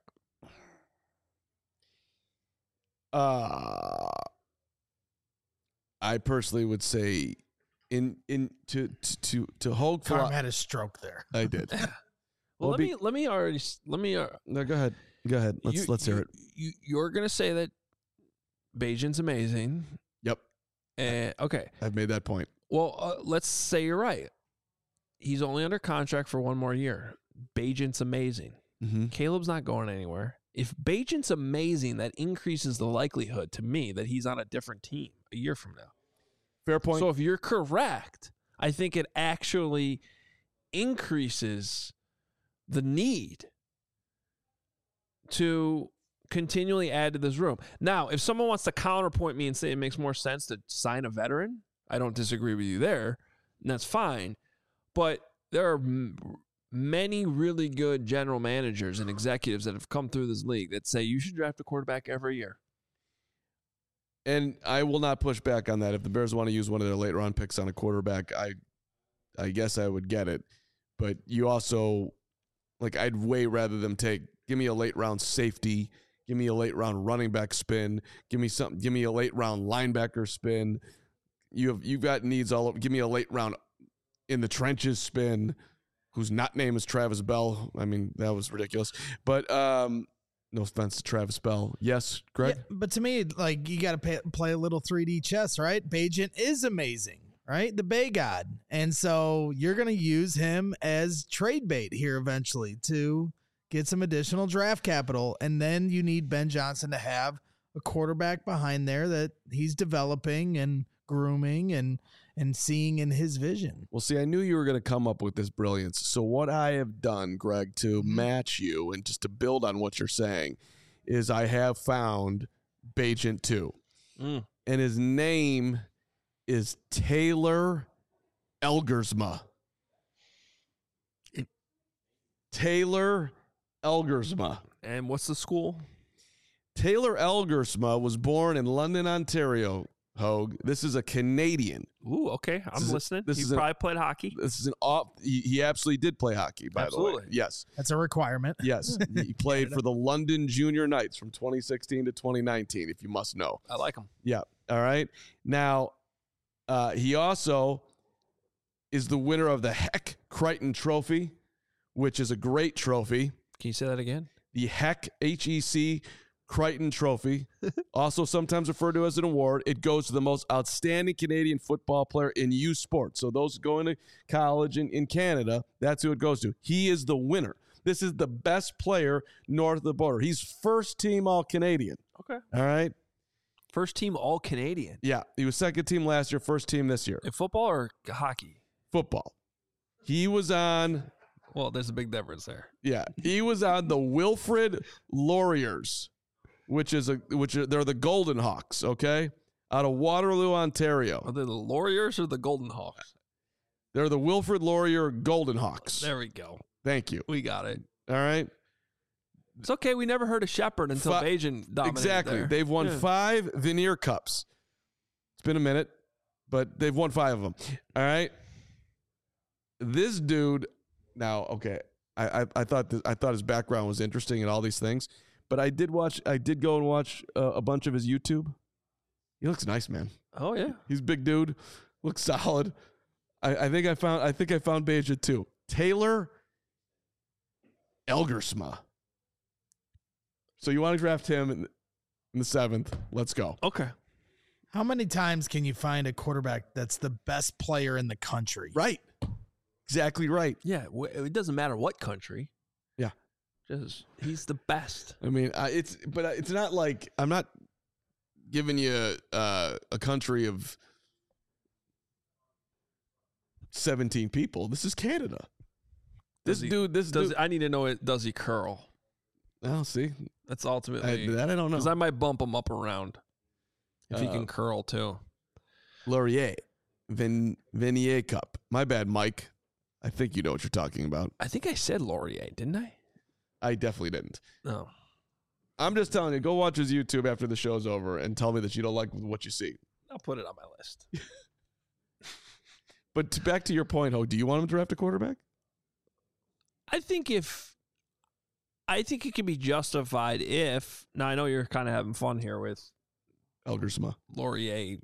I personally would say to hold. Carm had a stroke there. I did. Well, let me. No, go ahead. Go ahead. Let's hear it. You're gonna say that Bajan's amazing. Yep. Okay. I've made that point. Well, let's say you're right. He's only under contract for 1 more year. Bajan's amazing. Mm-hmm. Caleb's not going anywhere. If Bajan's amazing, that increases the likelihood to me that he's on a different team a year from now. Fair point. So if you're correct, I think it actually increases the need to continually add to this room. Now, if someone wants to counterpoint me and say it makes more sense to sign a veteran, I don't disagree with you there, and that's fine. But there are many really good general managers and executives that have come through this league that say you should draft a quarterback every year. And I will not push back on that. If the Bears want to use one of their late round picks on a quarterback, I guess I would get it. But you also, like, I'd way rather them give me a late round safety, give me a late round running back spin, give me a late round linebacker spin. You've got needs all over. Give me a late round in the trenches spin, whose name is Travis Bell. I mean, that was ridiculous. But no offense to Travis Bell. Yes, Greg? Yeah, but to me, like, you got to play a little 3D chess, right? Bajan is amazing, right? The Bay God. And so you're going to use him as trade bait here eventually to get some additional draft capital. And then you need Ben Johnson to have a quarterback behind there that he's developing and grooming and seeing in his vision. Well, see, I knew you were going to come up with this brilliance. So what I have done, Greg, to match you and just to build on what you're saying is I have found Bagent 2. And his name is Taylor Elgersma. Taylor Elgersma. And what's the school? Taylor Elgersma was born in London, Ontario. Hogue. This is a Canadian. Ooh, okay. I'm listening. He probably played hockey. This is he absolutely did play hockey, by the way. Yes. That's a requirement. Yes. He played for the London Junior Knights from 2016 to 2019, if you must know. I like him. Yeah. All right. Now, he also is the winner of the Heck Crichton Trophy, which is a great trophy. Can you say that again? The Heck, H-E-C, Crichton Trophy, also sometimes referred to as an award. It goes to the most outstanding Canadian football player in youth sports. So those going to college in Canada, that's who it goes to. He is the winner. This is the best player north of the border. He's first team All-Canadian. Okay. All right. First team All-Canadian. Yeah. He was second team last year, first team this year. In football or hockey? Football. He was on... Well, there's a big difference there. Yeah. He was on the Wilfrid Lauriers. They're the Golden Hawks, okay? Out of Waterloo, Ontario. Are they the Lauriers or the Golden Hawks? They're the Wilfrid Laurier Golden Hawks. There we go. Thank you. We got it. All right. It's okay. We never heard of Shepard until Bajan dominated. Exactly. There. They've won 5 Veneer Cups. It's been a minute, but they've won 5 of them. All right. This dude. Now, okay. I thought his background was interesting and all these things, but I did go and watch a bunch of his YouTube. He looks nice, man. Oh yeah. He's a big dude. Looks solid. I think I found Beja too. Taylor Elgersma. So you want to draft him in the 7th? Let's go. Okay. How many times can you find a quarterback that's the best player in the country? Right. Exactly right. Yeah. It doesn't matter what country. Yeah. Just he's the best. I mean, it's not like I'm not giving you a country of 17 people. This is Canada. This dude. I need to know it. Does he curl? Oh, see, that's ultimately that I don't know. Because I might bump him up around if he can curl too. Laurier, Venier Cup. My bad, Mike. I think you know what you're talking about. I think I said Laurier, didn't I? I definitely didn't. No. I'm just telling you, go watch his YouTube after the show's over and tell me that you don't like what you see. I'll put it on my list. But back to your point, Ho, do you want him to draft a quarterback? I think it can be justified if. Now I know you're kind of having fun here with Elgersma, Laurier's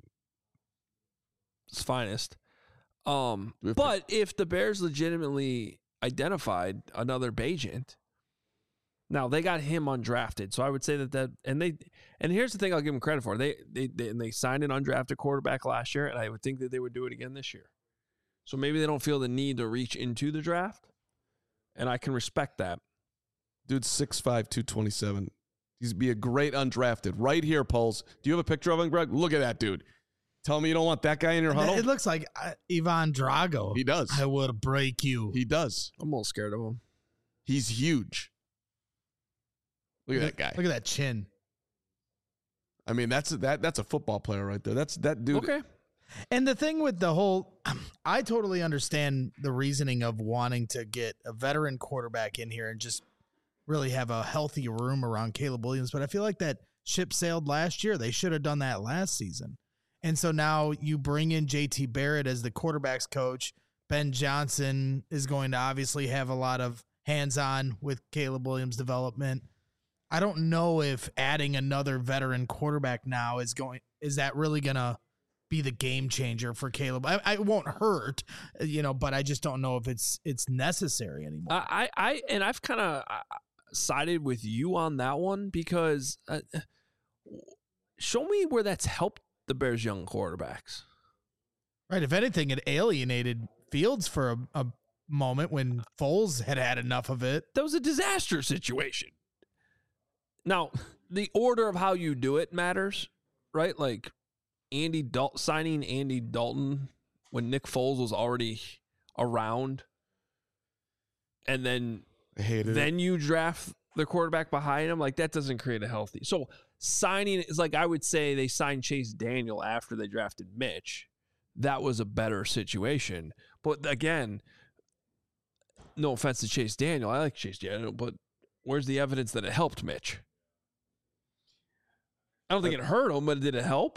finest. But if the Bears legitimately identified another Bagent, now they got him undrafted, so I would say that and here's the thing I'll give them credit for. They signed an undrafted quarterback last year, and I would think that they would do it again this year. So maybe they don't feel the need to reach into the draft, and I can respect that. Dude's 6'5", 227. He'd be a great undrafted. Right here, Poles. Do you have a picture of him, Greg? Look at that dude. Tell me you don't want that guy in your huddle? It looks like Ivan Drago. He does. I will break you. He does. I'm a little scared of him. He's huge. Look at that guy. Look at that chin. I mean, that's a football player right there. That's that dude. Okay. And the thing with the whole, I totally understand the reasoning of wanting to get a veteran quarterback in here and just really have a healthy room around Caleb Williams. But I feel like that ship sailed last year. They should have done that last season. And so now you bring in JT Barrett as the quarterback's coach. Ben Johnson is going to obviously have a lot of hands-on with Caleb Williams' development. I don't know if adding another veteran quarterback now is that really going to be the game changer for Caleb. I won't hurt, but I just don't know if it's necessary anymore. I've kind of sided with you on that one because show me where that's helped the Bears' young quarterbacks. Right. If anything, it alienated Fields for a moment when Foles had enough of it. That was a disaster situation. Now, the order of how you do it matters, right? Like signing Andy Dalton when Nick Foles was already around, and then you draft the quarterback behind him. Like that doesn't create a healthy. So signing is like I would say they signed Chase Daniel after they drafted Mitch. That was a better situation. But again, no offense to Chase Daniel, I like Chase Daniel, but where's the evidence that it helped Mitch? I don't think it hurt him, but did it help?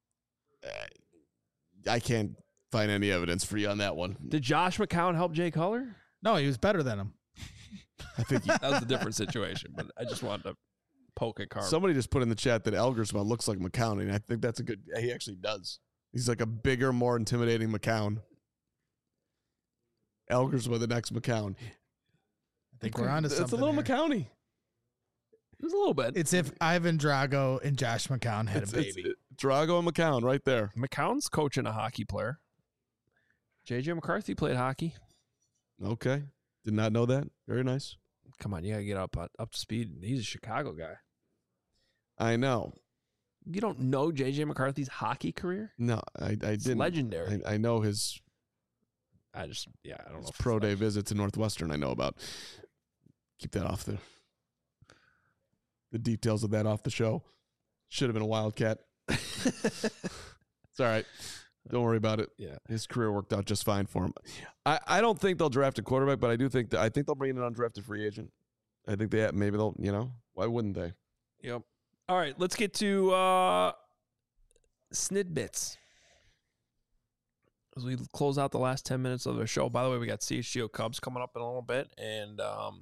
I can't find any evidence for you on that one. Did Josh McCown help Jay Cutler? No, he was better than him. I think that was a different situation, but I just wanted to poke at Carl. Somebody just put in the chat that Elgersma looks like McCown, and I think that's he actually does. He's like a bigger, more intimidating McCown. Elgersma, the next McCown. I think we're on to something. It's a little here. McCowny. It's a little bit. It's if Ivan Drago and Josh McCown had a baby. Drago and McCown right there. McCown's coaching a hockey player. J.J. McCarthy played hockey. Okay. Did not know that. Very nice. Come on, you got to get up to speed. He's a Chicago guy. I know. You don't know J.J. McCarthy's hockey career? No, I didn't. Legendary. I know his. I don't know. His pro day visit to Northwestern I know about. Keep that off the details of that off the show. Should have been a Wildcat. It's all right. Don't worry about it. Yeah. His career worked out just fine for him. I don't think they'll draft a quarterback, but I think they'll bring in an undrafted free agent. I think maybe they'll, why wouldn't they? Yep. All right, let's get to Snidbits. As we close out the last 10 minutes of the show. By the way, we got CHGO Cubs coming up in a little bit. And,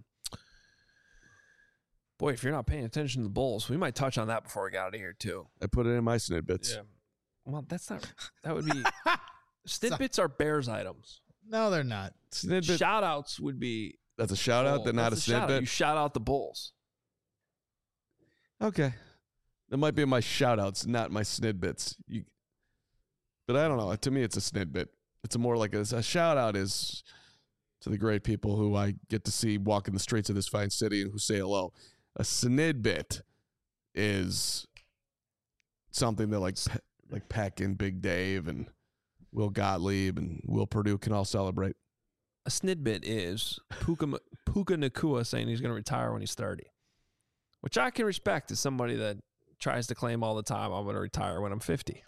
boy, if you're not paying attention to the Bulls, we might touch on that before we got out of here, too. I put it in my Snidbits. Yeah. Well, that's not, that would be, Snidbits are Bears items. No, they're not. Snidbit. Shout-outs would be. That's a shout-out, that not a Snidbit? You shout out the Bulls. Okay. That might be my shout-outs, not my Snidbits. But I don't know. To me, it's a Snidbit. It's more like a shout-out is to the great people who I get to see walking the streets of this fine city and who say hello. A Snidbit is something that like Peck and Big Dave and Will Gottlieb and Will Purdue can all celebrate. A Snidbit is Puka Nacua saying he's going to retire when he's 30, which I can respect as somebody that tries to claim all the time I'm going to retire when I'm 50.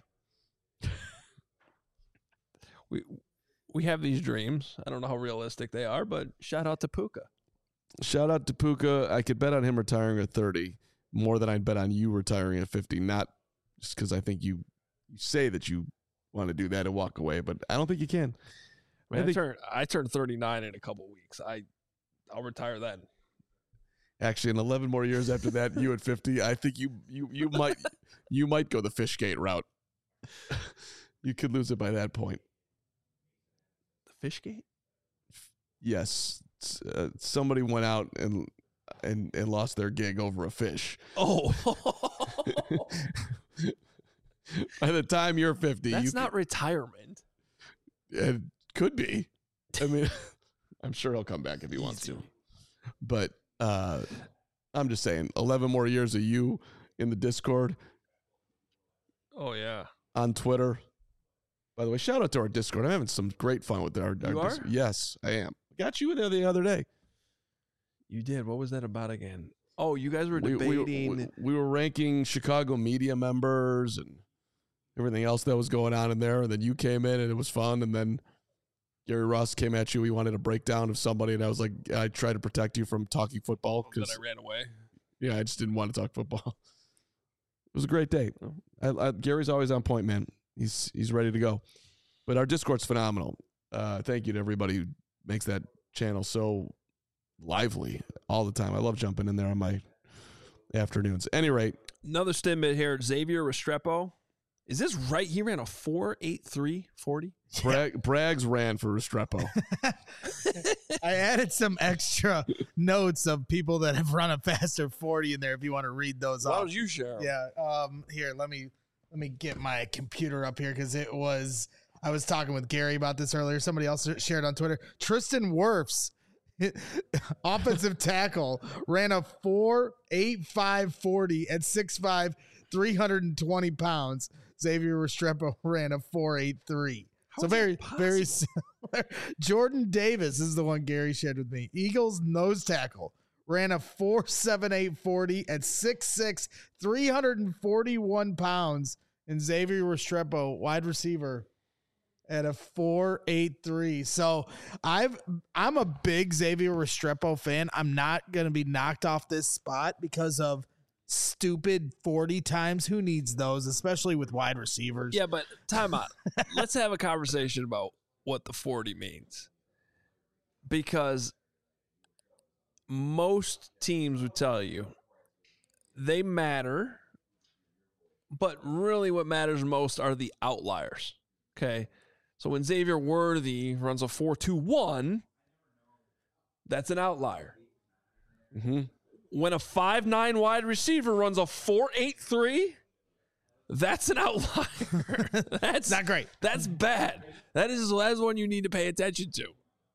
We have these dreams. I don't know how realistic they are, but shout out to Puka. Shout out to Puka. I could bet on him retiring at 30 more than I'd bet on you retiring at 50. Not just because I think you say that you want to do that and walk away, but I don't think you can. I turned 39 in a couple weeks. I'll retire then. Actually, in 11 more years after that, you at 50, I think you might go the Fishgate route. You could lose it by that point. The Fishgate? Yes. Somebody went out and lost their gig over a fish. Oh. By the time you're 50, that's not retirement. It could be. I mean, I'm sure he'll come back if he wants to. But I'm just saying, 11 more years of you in the Discord. Oh, yeah. On Twitter. By the way, shout out to our Discord. I'm having some great fun with our You are? Discord. Yes, I am. Got you there the other day. You did. What was that about again? Oh, you guys were debating. We were ranking Chicago media members and everything else that was going on in there. And then you came in and it was fun. And then Gary Ross came at you. He wanted a breakdown of somebody. And I was like, I tried to protect you from talking football. Then I ran away. Yeah, I just didn't want to talk football. It was a great day. Gary's always on point, man. He's ready to go. But our Discord's phenomenal. Thank you to everybody who makes that channel so lively all the time. I love jumping in there on my afternoons. At any rate. Another stimmet here. Xavier Restrepo. Is this right? He ran a 4.8340. Braggs ran for Restrepo. I added some extra notes of people that have run a faster 40 in there if you want to read those off. Why don't you share them? Yeah. Here, let me get my computer up here because I was talking with Gary about this earlier. Somebody else shared on Twitter. Tristan Wirfs, offensive tackle, ran a 4.8540 at 6'5", 320 pounds. Xavier Restrepo ran a 4.83. So very similar. Jordan Davis is the one Gary shared with me. Eagles nose tackle ran a 4.7840 at 6'6", 341 pounds. And Xavier Restrepo, wide receiver, at a 4.83. So I'm a big Xavier Restrepo fan. I'm not going to be knocked off this spot because of stupid 40 times. Who needs those, especially with wide receivers? Yeah, but time out. Let's have a conversation about what the 40 means. Because most teams would tell you they matter, but really what matters most are the outliers. Okay? So when Xavier Worthy runs a 4.21, that's an outlier. Mm-hmm. When a 5'9" wide receiver runs a 4.83, that's an outlier. That's not great. That's bad. That's one you need to pay attention to.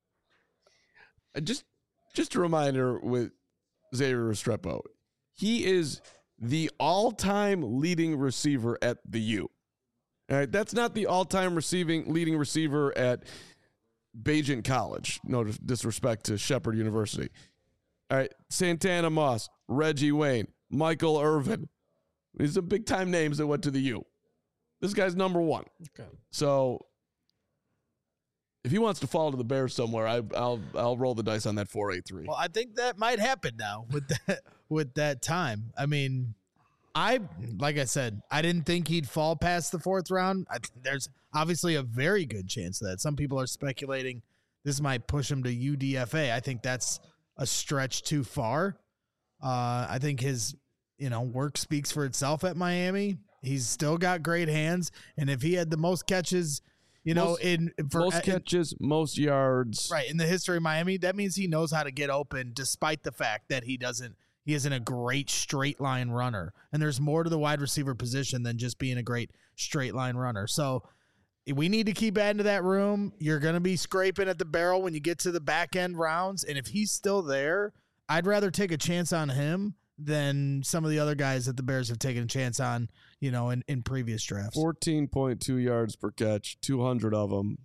Just a reminder with Xavier Restrepo, he is the all-time leading receiver at the U. All right, that's not the all-time leading receiver at Bajent College. No disrespect to Shepherd University. All right, Santana Moss, Reggie Wayne, Michael Irvin. These are big-time names that went to the U. This guy's number one. Okay. So If he wants to fall to the Bears somewhere, I'll roll the dice on that 4.83. Well, I think that might happen now with that time. I mean, like I said, I didn't think he'd fall past the 4th round. There's obviously a very good chance of that. Some people are speculating this might push him to UDFA. I think that's a stretch too far. I think his work speaks for itself at Miami. He's still got great hands, and if he had the most catches, most catches, most yards, right, in the history of Miami, that means he knows how to get open, despite the fact that he isn't a great straight line runner. And there's more to the wide receiver position than just being a great straight line runner. So we need to keep adding to that room. You're going to be scraping at the barrel when you get to the back end rounds, and if he's still there, I'd rather take a chance on him than some of the other guys that the Bears have taken a chance on, in previous drafts. 14.2 yards per catch, 200 of them,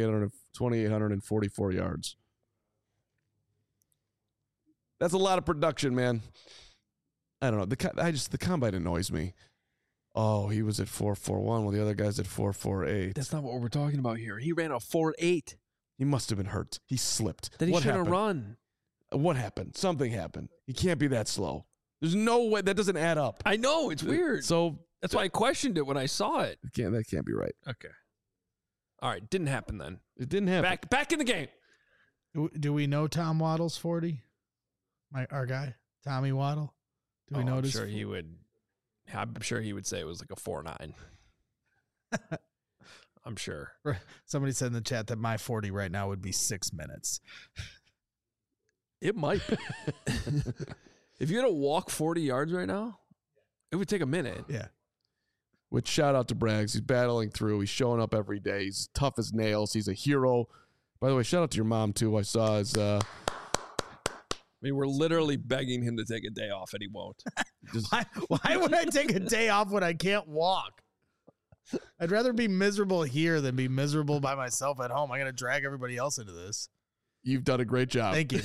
2,844 yards. That's a lot of production, man. I don't know. The combine annoys me. Oh, he was at 4.41 while the other guy's at 4.48. That's not what we're talking about here. He ran a 4.8. He must have been hurt. He slipped. Then he should have run. What happened? Something happened. He can't be that slow. There's no way. That doesn't add up. I know. It's weird. So that's why I questioned it when I saw it. That can't be right. Okay. All right. Didn't happen then. It didn't happen. Back in the game. Do we know Tom Waddle's 40? Our guy, Tommy Waddle. Do we know this? I'm sure he would say it was like a 4.9. I'm sure. Somebody said in the chat that my 40 right now would be 6 minutes. It might be. If you had to walk 40 yards right now, it would take a minute. Yeah. Which shout out to Braggs. He's battling through. He's showing up every day. He's tough as nails. He's a hero. By the way, shout out to your mom, too. I saw his... I mean, we're literally begging him to take a day off, and he won't. Why would I take a day off when I can't walk? I'd rather be miserable here than be miserable by myself at home. I got to drag everybody else into this. You've done a great job. Thank you.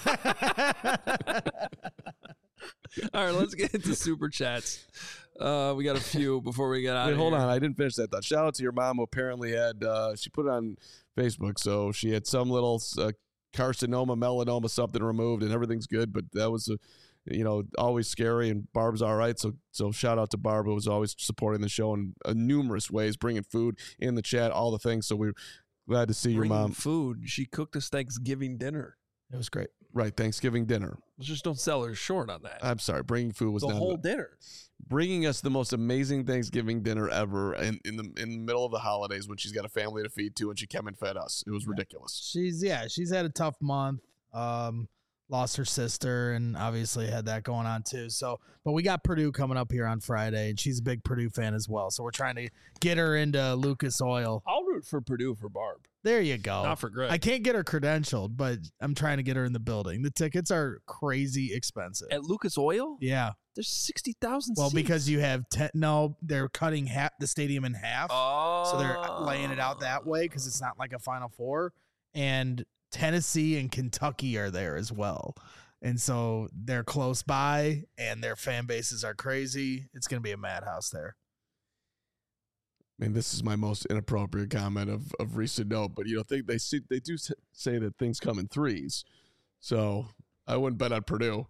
All right, let's get into Super Chats. We got a few before we get out of here. Hold on. I didn't finish that thought. Shout out to your mom who apparently had, she put it on Facebook, so she had some little carcinoma, melanoma, something removed, and everything's good, but that was, always scary, and Barb's all right, so shout out to Barb, who was always supporting the show in numerous ways, bringing food in the chat, all the things, so we're glad to see your mom. Food. She cooked us Thanksgiving dinner. It was great. Right, Thanksgiving dinner. Let's just don't sell her short on that. I'm sorry, bringing food was the not whole dinner. Bringing us the most amazing Thanksgiving dinner ever in the middle of the holidays when she's got a family to feed to, and she came and fed us. It was ridiculous. She's had a tough month. Lost her sister, and obviously had that going on too. So, but we got Purdue coming up here on Friday, and she's a big Purdue fan as well. So we're trying to get her into Lucas Oil. I'll root for Purdue for Barb. There you go. Not for Greg. I can't get her credentialed, but I'm trying to get her in the building. The tickets are crazy expensive. At Lucas Oil? Yeah. There's 60,000 Well, seats. because you have they're cutting the stadium in half. Oh. So they're laying it out that way because it's not like a Final Four. And Tennessee and Kentucky are there as well. And so they're close by, and their fan bases are crazy. It's going to be a madhouse there. I mean, this is my most inappropriate comment of recent note, but they do say that things come in threes. So I wouldn't bet on Purdue.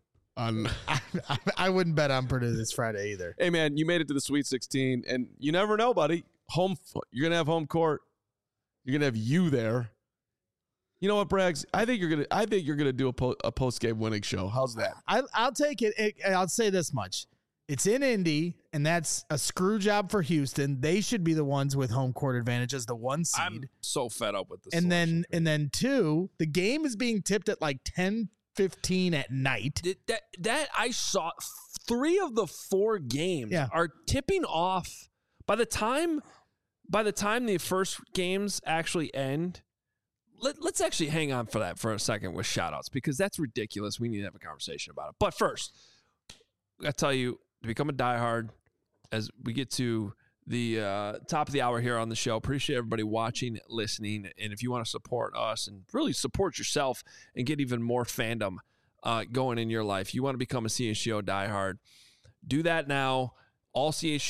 I wouldn't bet on Purdue this Friday either. Hey man, you made it to the Sweet 16, and you never know, buddy. You're gonna have home court. You're gonna have you there. You know what, Braggs? I think you're gonna do a post game winning show. How's that? I'll take it. I'll say this much: it's in Indy, and that's a screw job for Houston. They should be the ones with home court advantage as the 1 seed. I'm so fed up with this. And then 2, the game is being tipped at like 10:15 at night. That I saw 3 of the 4 games are tipping off by the time the first games actually end. Let's actually hang on for that for a second with shout-outs, because that's ridiculous. We need to have a conversation about it. But first, I tell you, to become a diehard, as we get to the top of the hour here on the show, appreciate everybody watching, listening, and if you want to support us and really support yourself and get even more fandom going in your life, you want to become a CHGO diehard, do that now.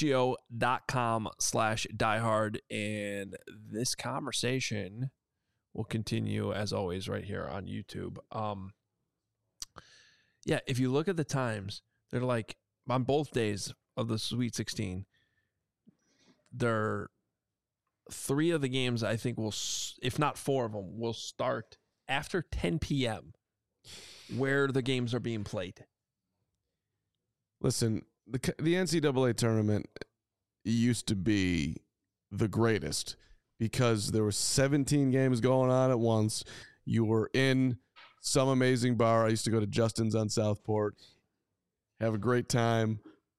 allchgo.com/diehard. And this conversation will continue as always right here on YouTube. Yeah, if you look at the times, they're like on both days of the Sweet 16. They're 3 of the games I think will, if not 4 of them, will start after 10 p.m. where the games are being played. Listen, the NCAA tournament used to be the greatest because there were 17 games going on at once. You were in some amazing bar. I used to go to Justin's on Southport, have a great time,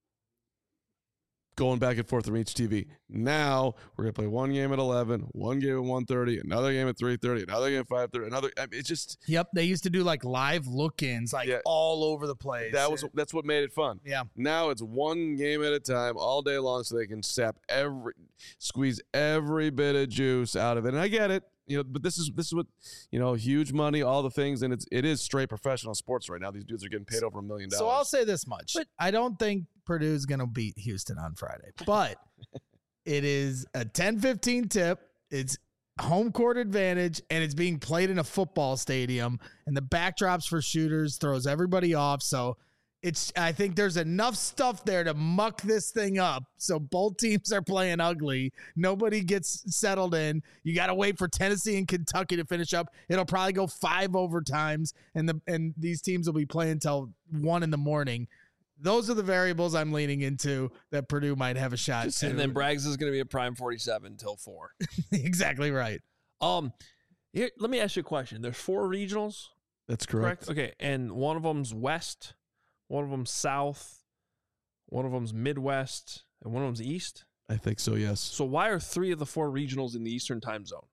going back and forth from each TV. Now we're gonna play one game at 11, one game at 1:30, another game at 3:30, another game at 5:30, another. It's just They used to do like live look-ins, all over the place. That's what made it fun. Yeah. Now it's one game at a time, all day long, so they can squeeze every bit of juice out of it. And I get it, but this is what, huge money, all the things, and it is straight professional sports right now. These dudes are getting paid over $1 million. So I'll say this much: I don't think Purdue's going to beat Houston on Friday, but it is a 10-15 tip. It's home court advantage, and it's being played in a football stadium, and the backdrops for shooters throws everybody off. So I think there's enough stuff there to muck this thing up. So both teams are playing ugly. Nobody gets settled in. You got to wait for Tennessee and Kentucky to finish up. It'll probably go 5 overtimes, and these teams will be playing till 1 a.m. Those are the variables I'm leaning into that Purdue might have a shot to. And then Braggs is going to be a prime 47 until 4. Exactly right. Here, let me ask you a question. There's 4 regionals. That's correct. Okay, and one of them's West, one of them's South, one of them's Midwest, and one of them's East? I think so, yes. So why are 3 of the 4 regionals in the Eastern time zone?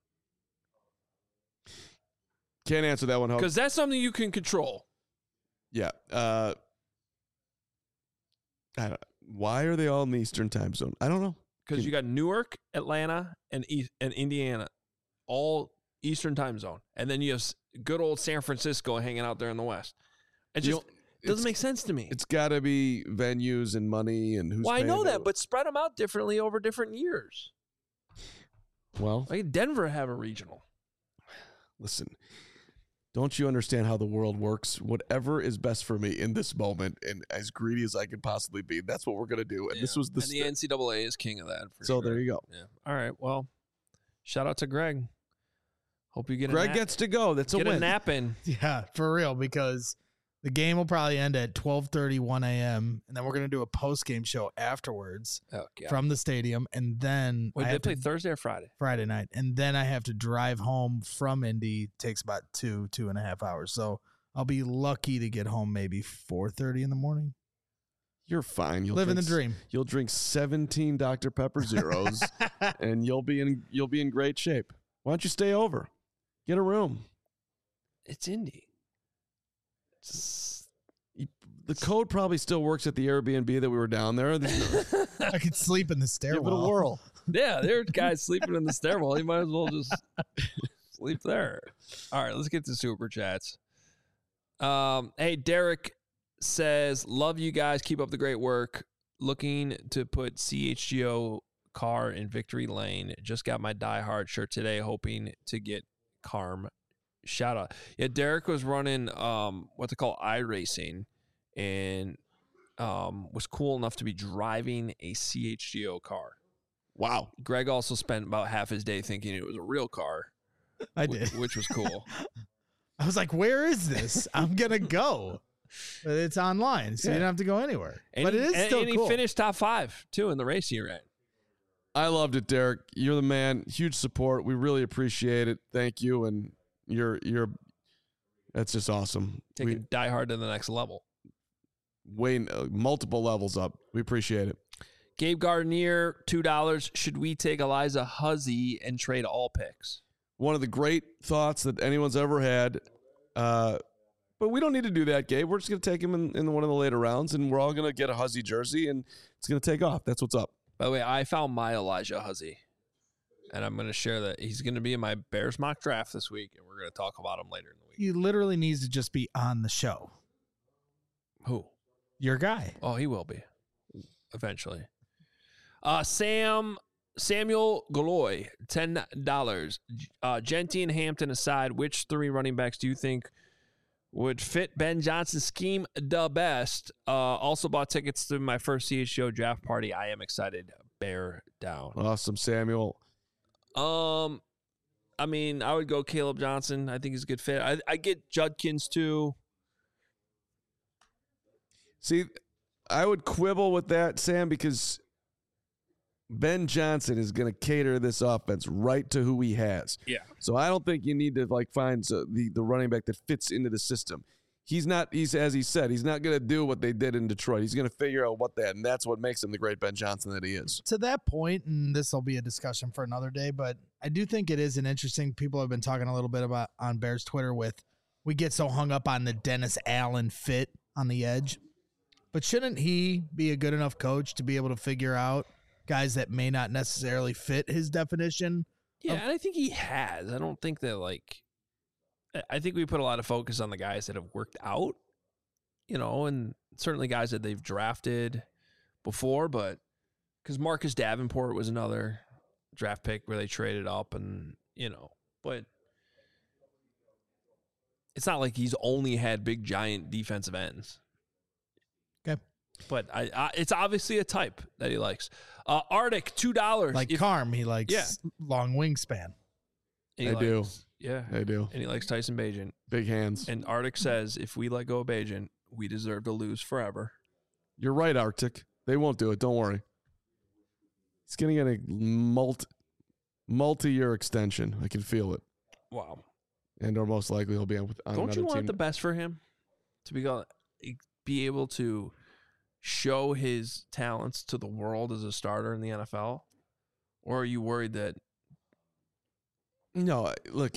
Can't answer that one, Hope. Because that's something you can control. Yeah. Why are they all in the Eastern time zone? I don't know. Because you got Newark, Atlanta, and Indiana, all Eastern time zone. And then you have good old San Francisco hanging out there in the West. It just doesn't make sense to me. It's got to be venues and money and who's paying. I know that, but spread them out differently over different years. Well, like Denver have a regional. Listen, don't you understand how the world works? Whatever is best for me in this moment, and as greedy as I could possibly be, that's what we're going to do. And this was the NCAA is king of that. So there you go. Yeah. All right. Well, shout out to Greg. Hope you get Greg gets to go. That's a win. Get a nap in. Yeah, for real, because the game will probably end at 12:30, 1 a.m., and then we're going to do a post-game show afterwards from the stadium, and then Wait, they play Thursday or Friday? Friday night, and then I have to drive home from Indy. Takes about 2.5 hours, so I'll be lucky to get home maybe 4:30 in the morning. You're fine. You'll living the dream. You'll drink 17 Dr. Pepper Zeros, and you'll be in great shape. Why don't you stay over? Get a room. It's Indy. The code probably still works at the Airbnb that we were down there. I could sleep in the stairwell. Give it a whirl. Yeah, there are guys sleeping in the stairwell. You might as well just sleep there. All right, let's get to super chats. Hey, Derek says, love you guys. Keep up the great work. Looking to put CHGO car in victory lane. Just got my Die Hard shirt today, hoping to get Carm. Shout out. Yeah, Derek was running what they call iRacing and was cool enough to be driving a CHGO car. Wow. Greg also spent about half his day thinking it was a real car. I did. Which was cool. I was like, where is this? I'm going to go. But it's online, so you don't have to go anywhere. But it is still cool. And he finished top 5, too, in the race he ran. I loved it, Derek. You're the man. Huge support. We really appreciate it. Thank you. And you're that's just awesome. Taking Die Hard to the next level. Multiple levels up. We appreciate it. Gabe Gardner, $2. Should we take Eliza Huzzy and trade all picks? One of the great thoughts that anyone's ever had. But we don't need to do that, Gabe. We're just going to take him in one of the later rounds, and we're all going to get a Huzzy jersey, and it's going to take off. That's what's up. By the way, I found my Elijah Huzzy, and I'm going to share that. He's going to be in my Bears mock draft this week, and we're going to talk about him later in the week. He literally needs to just be on the show. Who? Your guy. Oh, he will be eventually. Sam Samuel Galoy, $10. Genty and Hampton aside, which 3 running backs do you think would fit Ben Johnson's scheme the best? Also bought tickets to my first CHGO draft party. I am excited. Bear down. Awesome, Samuel. I mean, I would go Caleb Johnson. I think he's a good fit. I get Judkins too. See, I would quibble with that, Sam, because Ben Johnson is going to cater this offense right to who he has. Yeah. So I don't think you need to find the running back that fits into the system. He's as he said, he's not going to do what they did in Detroit. He's going to figure out and that's what makes him the great Ben Johnson that he is. To that point, and this will be a discussion for another day, but I do think it is an interesting, people have been talking a little bit about on Bears Twitter we get so hung up on the Dennis Allen fit on the edge, but shouldn't he be a good enough coach to be able to figure out guys that may not necessarily fit his definition? Yeah, and I think he has. I don't think that I think we put a lot of focus on the guys that have worked out, and certainly guys that they've drafted before, but because Marcus Davenport was another draft pick where they traded up and, but it's not like he's only had big, giant defensive ends. Okay. But it's obviously a type that he likes. Arctic, $2. Like Carm, he likes long wingspan. I do. Yeah. I do. And he likes Tyson Bagent. Big hands. And Arctic says, if we let go of Bagent, we deserve to lose forever. You're right, Arctic. They won't do it. Don't worry. He's going to get a multi-year extension. I can feel it. Wow. And or most likely he'll be on Don't another you want team. the best for him? To be able to show his talents to the world as a starter in the NFL? Or are you worried that... No, look,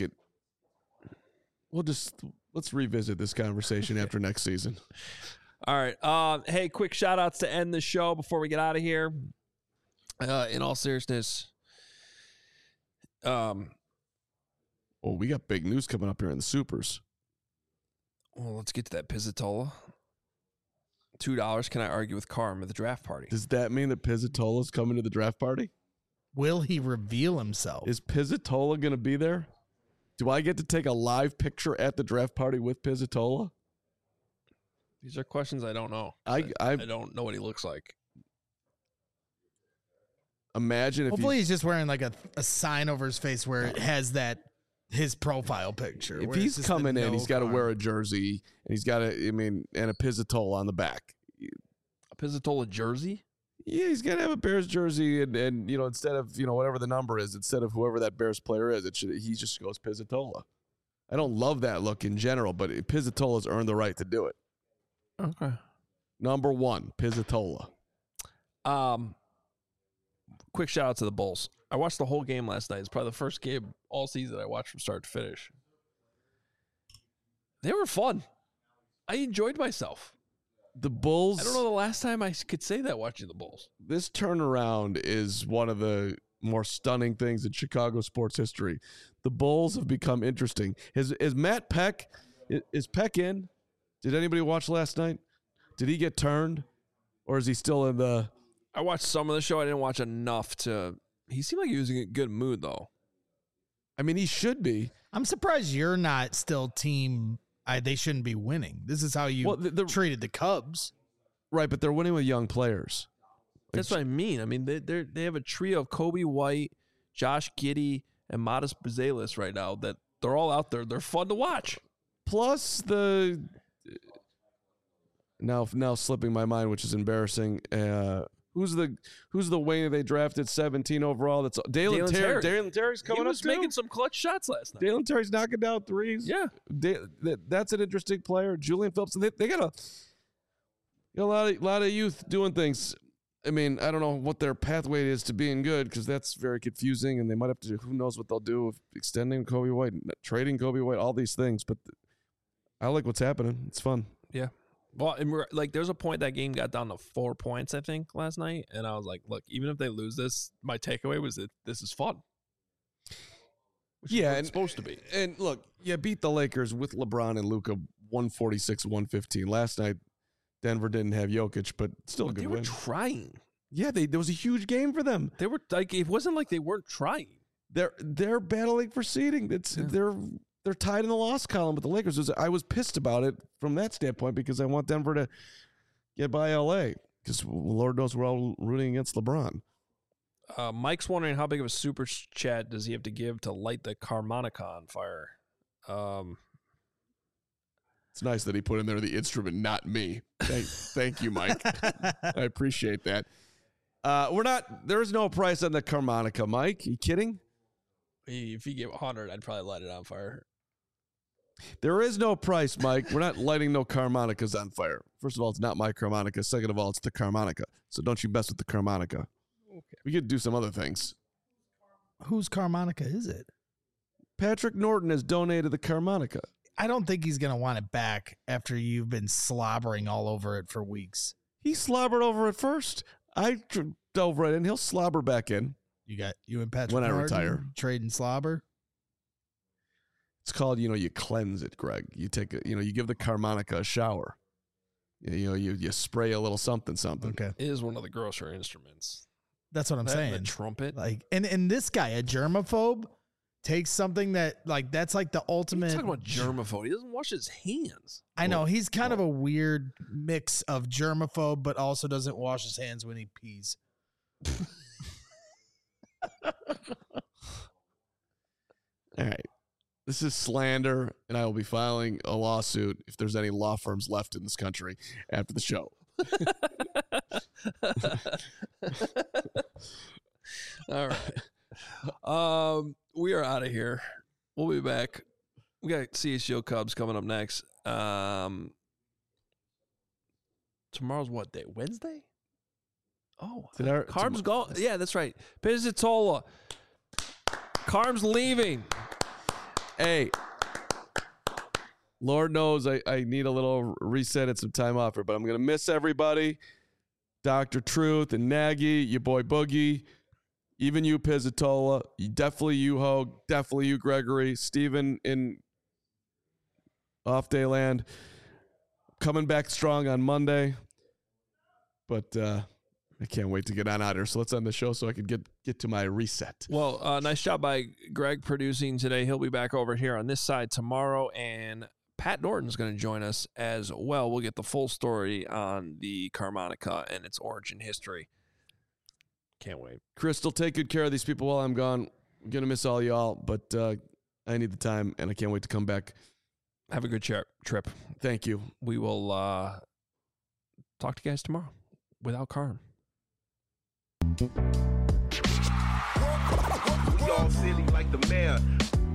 let's revisit this conversation after next season. All right. Hey, quick shout outs to end the show before we get out of here. In all seriousness, we got big news coming up here in the Supers. Well, let's get to that Pizzatola. $2. Can I argue with Carm at the draft party? Does that mean that Pizzatola's coming to the draft party? Will he reveal himself? Is Pizzatola going to be there? Do I get to take a live picture at the draft party with Pizzatola? These are questions I don't know. I don't know what he looks like. Imagine if hopefully he's just wearing like a sign over his face where it has his profile picture. If he's coming in, he's got to wear a jersey and he's got and a Pizzatola on the back. A Pizzatola jersey? Yeah, he's got to have a Bears jersey and instead of, whatever the number is, instead of whoever that Bears player is, he just goes Pizzatola. I don't love that look in general, but Pizzatola's earned the right to do it. Okay. Number 1, Pizzatola. Quick shout out to the Bulls. I watched the whole game last night. It's probably the first game all season I watched from start to finish. They were fun. I enjoyed myself. The Bulls. I don't know the last time I could say that watching the Bulls. This turnaround is one of the more stunning things in Chicago sports history. The Bulls have become interesting. Is Matt Peck, is Peck in? Did anybody watch last night? Did he get turned? Or is he still in the... I watched some of the show. I didn't watch enough to... He seemed like he was in a good mood, though. I mean, he should be. I'm surprised you're not still team... they shouldn't be winning. This is how you treated the Cubs. Right, but they're winning with young players. That's what I mean. I mean, they have a trio of Kobe White, Josh Giddey, and Modest Buzelis right now that they're all out there. They're fun to watch. Plus the... Now slipping my mind, which is embarrassing. Who's the wing they drafted 17 overall? That's Dalen Terry. Dalen Terry's coming up. He was making some clutch shots last night. Dalen Terry's knocking down threes. Yeah, that's an interesting player. Julian Phillips. They got a lot of youth doing things. I mean, I don't know what their pathway is to being good because that's very confusing, and they might have to. Who knows what they'll do with extending Kobe White, trading Kobe White, all these things. But I like what's happening. It's fun. Yeah. Well, and there's a point that game got down to 4 points, I think, last night. And I was like, look, even if they lose this, my takeaway was that this is fun. Which is what it's supposed to be. And look, you beat the Lakers with LeBron and Luka 146-115. Last night, Denver didn't have Jokic, but still a good win. They were trying. Yeah, there was a huge game for them. They were like, it wasn't like they weren't trying. They're battling for seeding. They're tied in the loss column with the Lakers. I was pissed about it from that standpoint because I want Denver to get by LA because Lord knows we're all rooting against LeBron. Mike's wondering how big of a super chat does he have to give to light the Carmonica on fire. It's nice that he put in there the instrument, not me. Thank you, Mike. I appreciate that. There is no price on the Carmonica, Mike. Are you kidding? If he gave 100, I'd probably light it on fire. There is no price, Mike. We're not lighting no Carmonicas on fire. First of all, it's not my Carmonica. Second of all, it's the Carmonica. So don't you mess with the Carmonica. Okay. We could do some other things. Whose Carmonica is it? Patrick Norton has donated the Carmonica. I don't think he's going to want it back after you've been slobbering all over it for weeks. He slobbered over it first. I dove right in. He'll slobber back in. You and Patrick when Norton I retire. Trading slobber? It's called, you cleanse it, Greg. You take you give the Carmonica a shower. You spray a little something. Okay. It is one of the grosser instruments. That's what I'm saying. The trumpet. And this guy, a germaphobe, takes something that that's like the ultimate. He's talking about germaphobe. He doesn't wash his hands. I know he's kind of a weird mix of germaphobe, but also doesn't wash his hands when he pees. All right. This is slander, and I will be filing a lawsuit if there's any law firms left in this country after the show. All right. We are out of here. We'll be back. We got CHGO Cubs coming up next. Tomorrow's what day? Wednesday? Oh, Carb's gone. Yeah, that's right. Pizzatola. Carb's leaving. Hey, Lord knows I need a little reset and some time off here, but I'm going to miss everybody. Dr. Truth and Nagy, your boy Boogie, even you, Pizzatola, definitely you, Hogue, definitely you, Gregory, Steven in Off Day Land, coming back strong on Monday, but I can't wait to get on out here. So let's end the show so I can get to my reset. Well, nice job by Greg producing today. He'll be back over here on this side tomorrow, and Pat Norton's going to join us as well. We'll get the full story on the Carmonica and its origin history. Can't wait. Crystal, take good care of these people while I'm gone. I'm going to miss all y'all, but I need the time, and I can't wait to come back. Have a good trip. Thank you. We will talk to you guys tomorrow without Carm. We all silly like the mayor.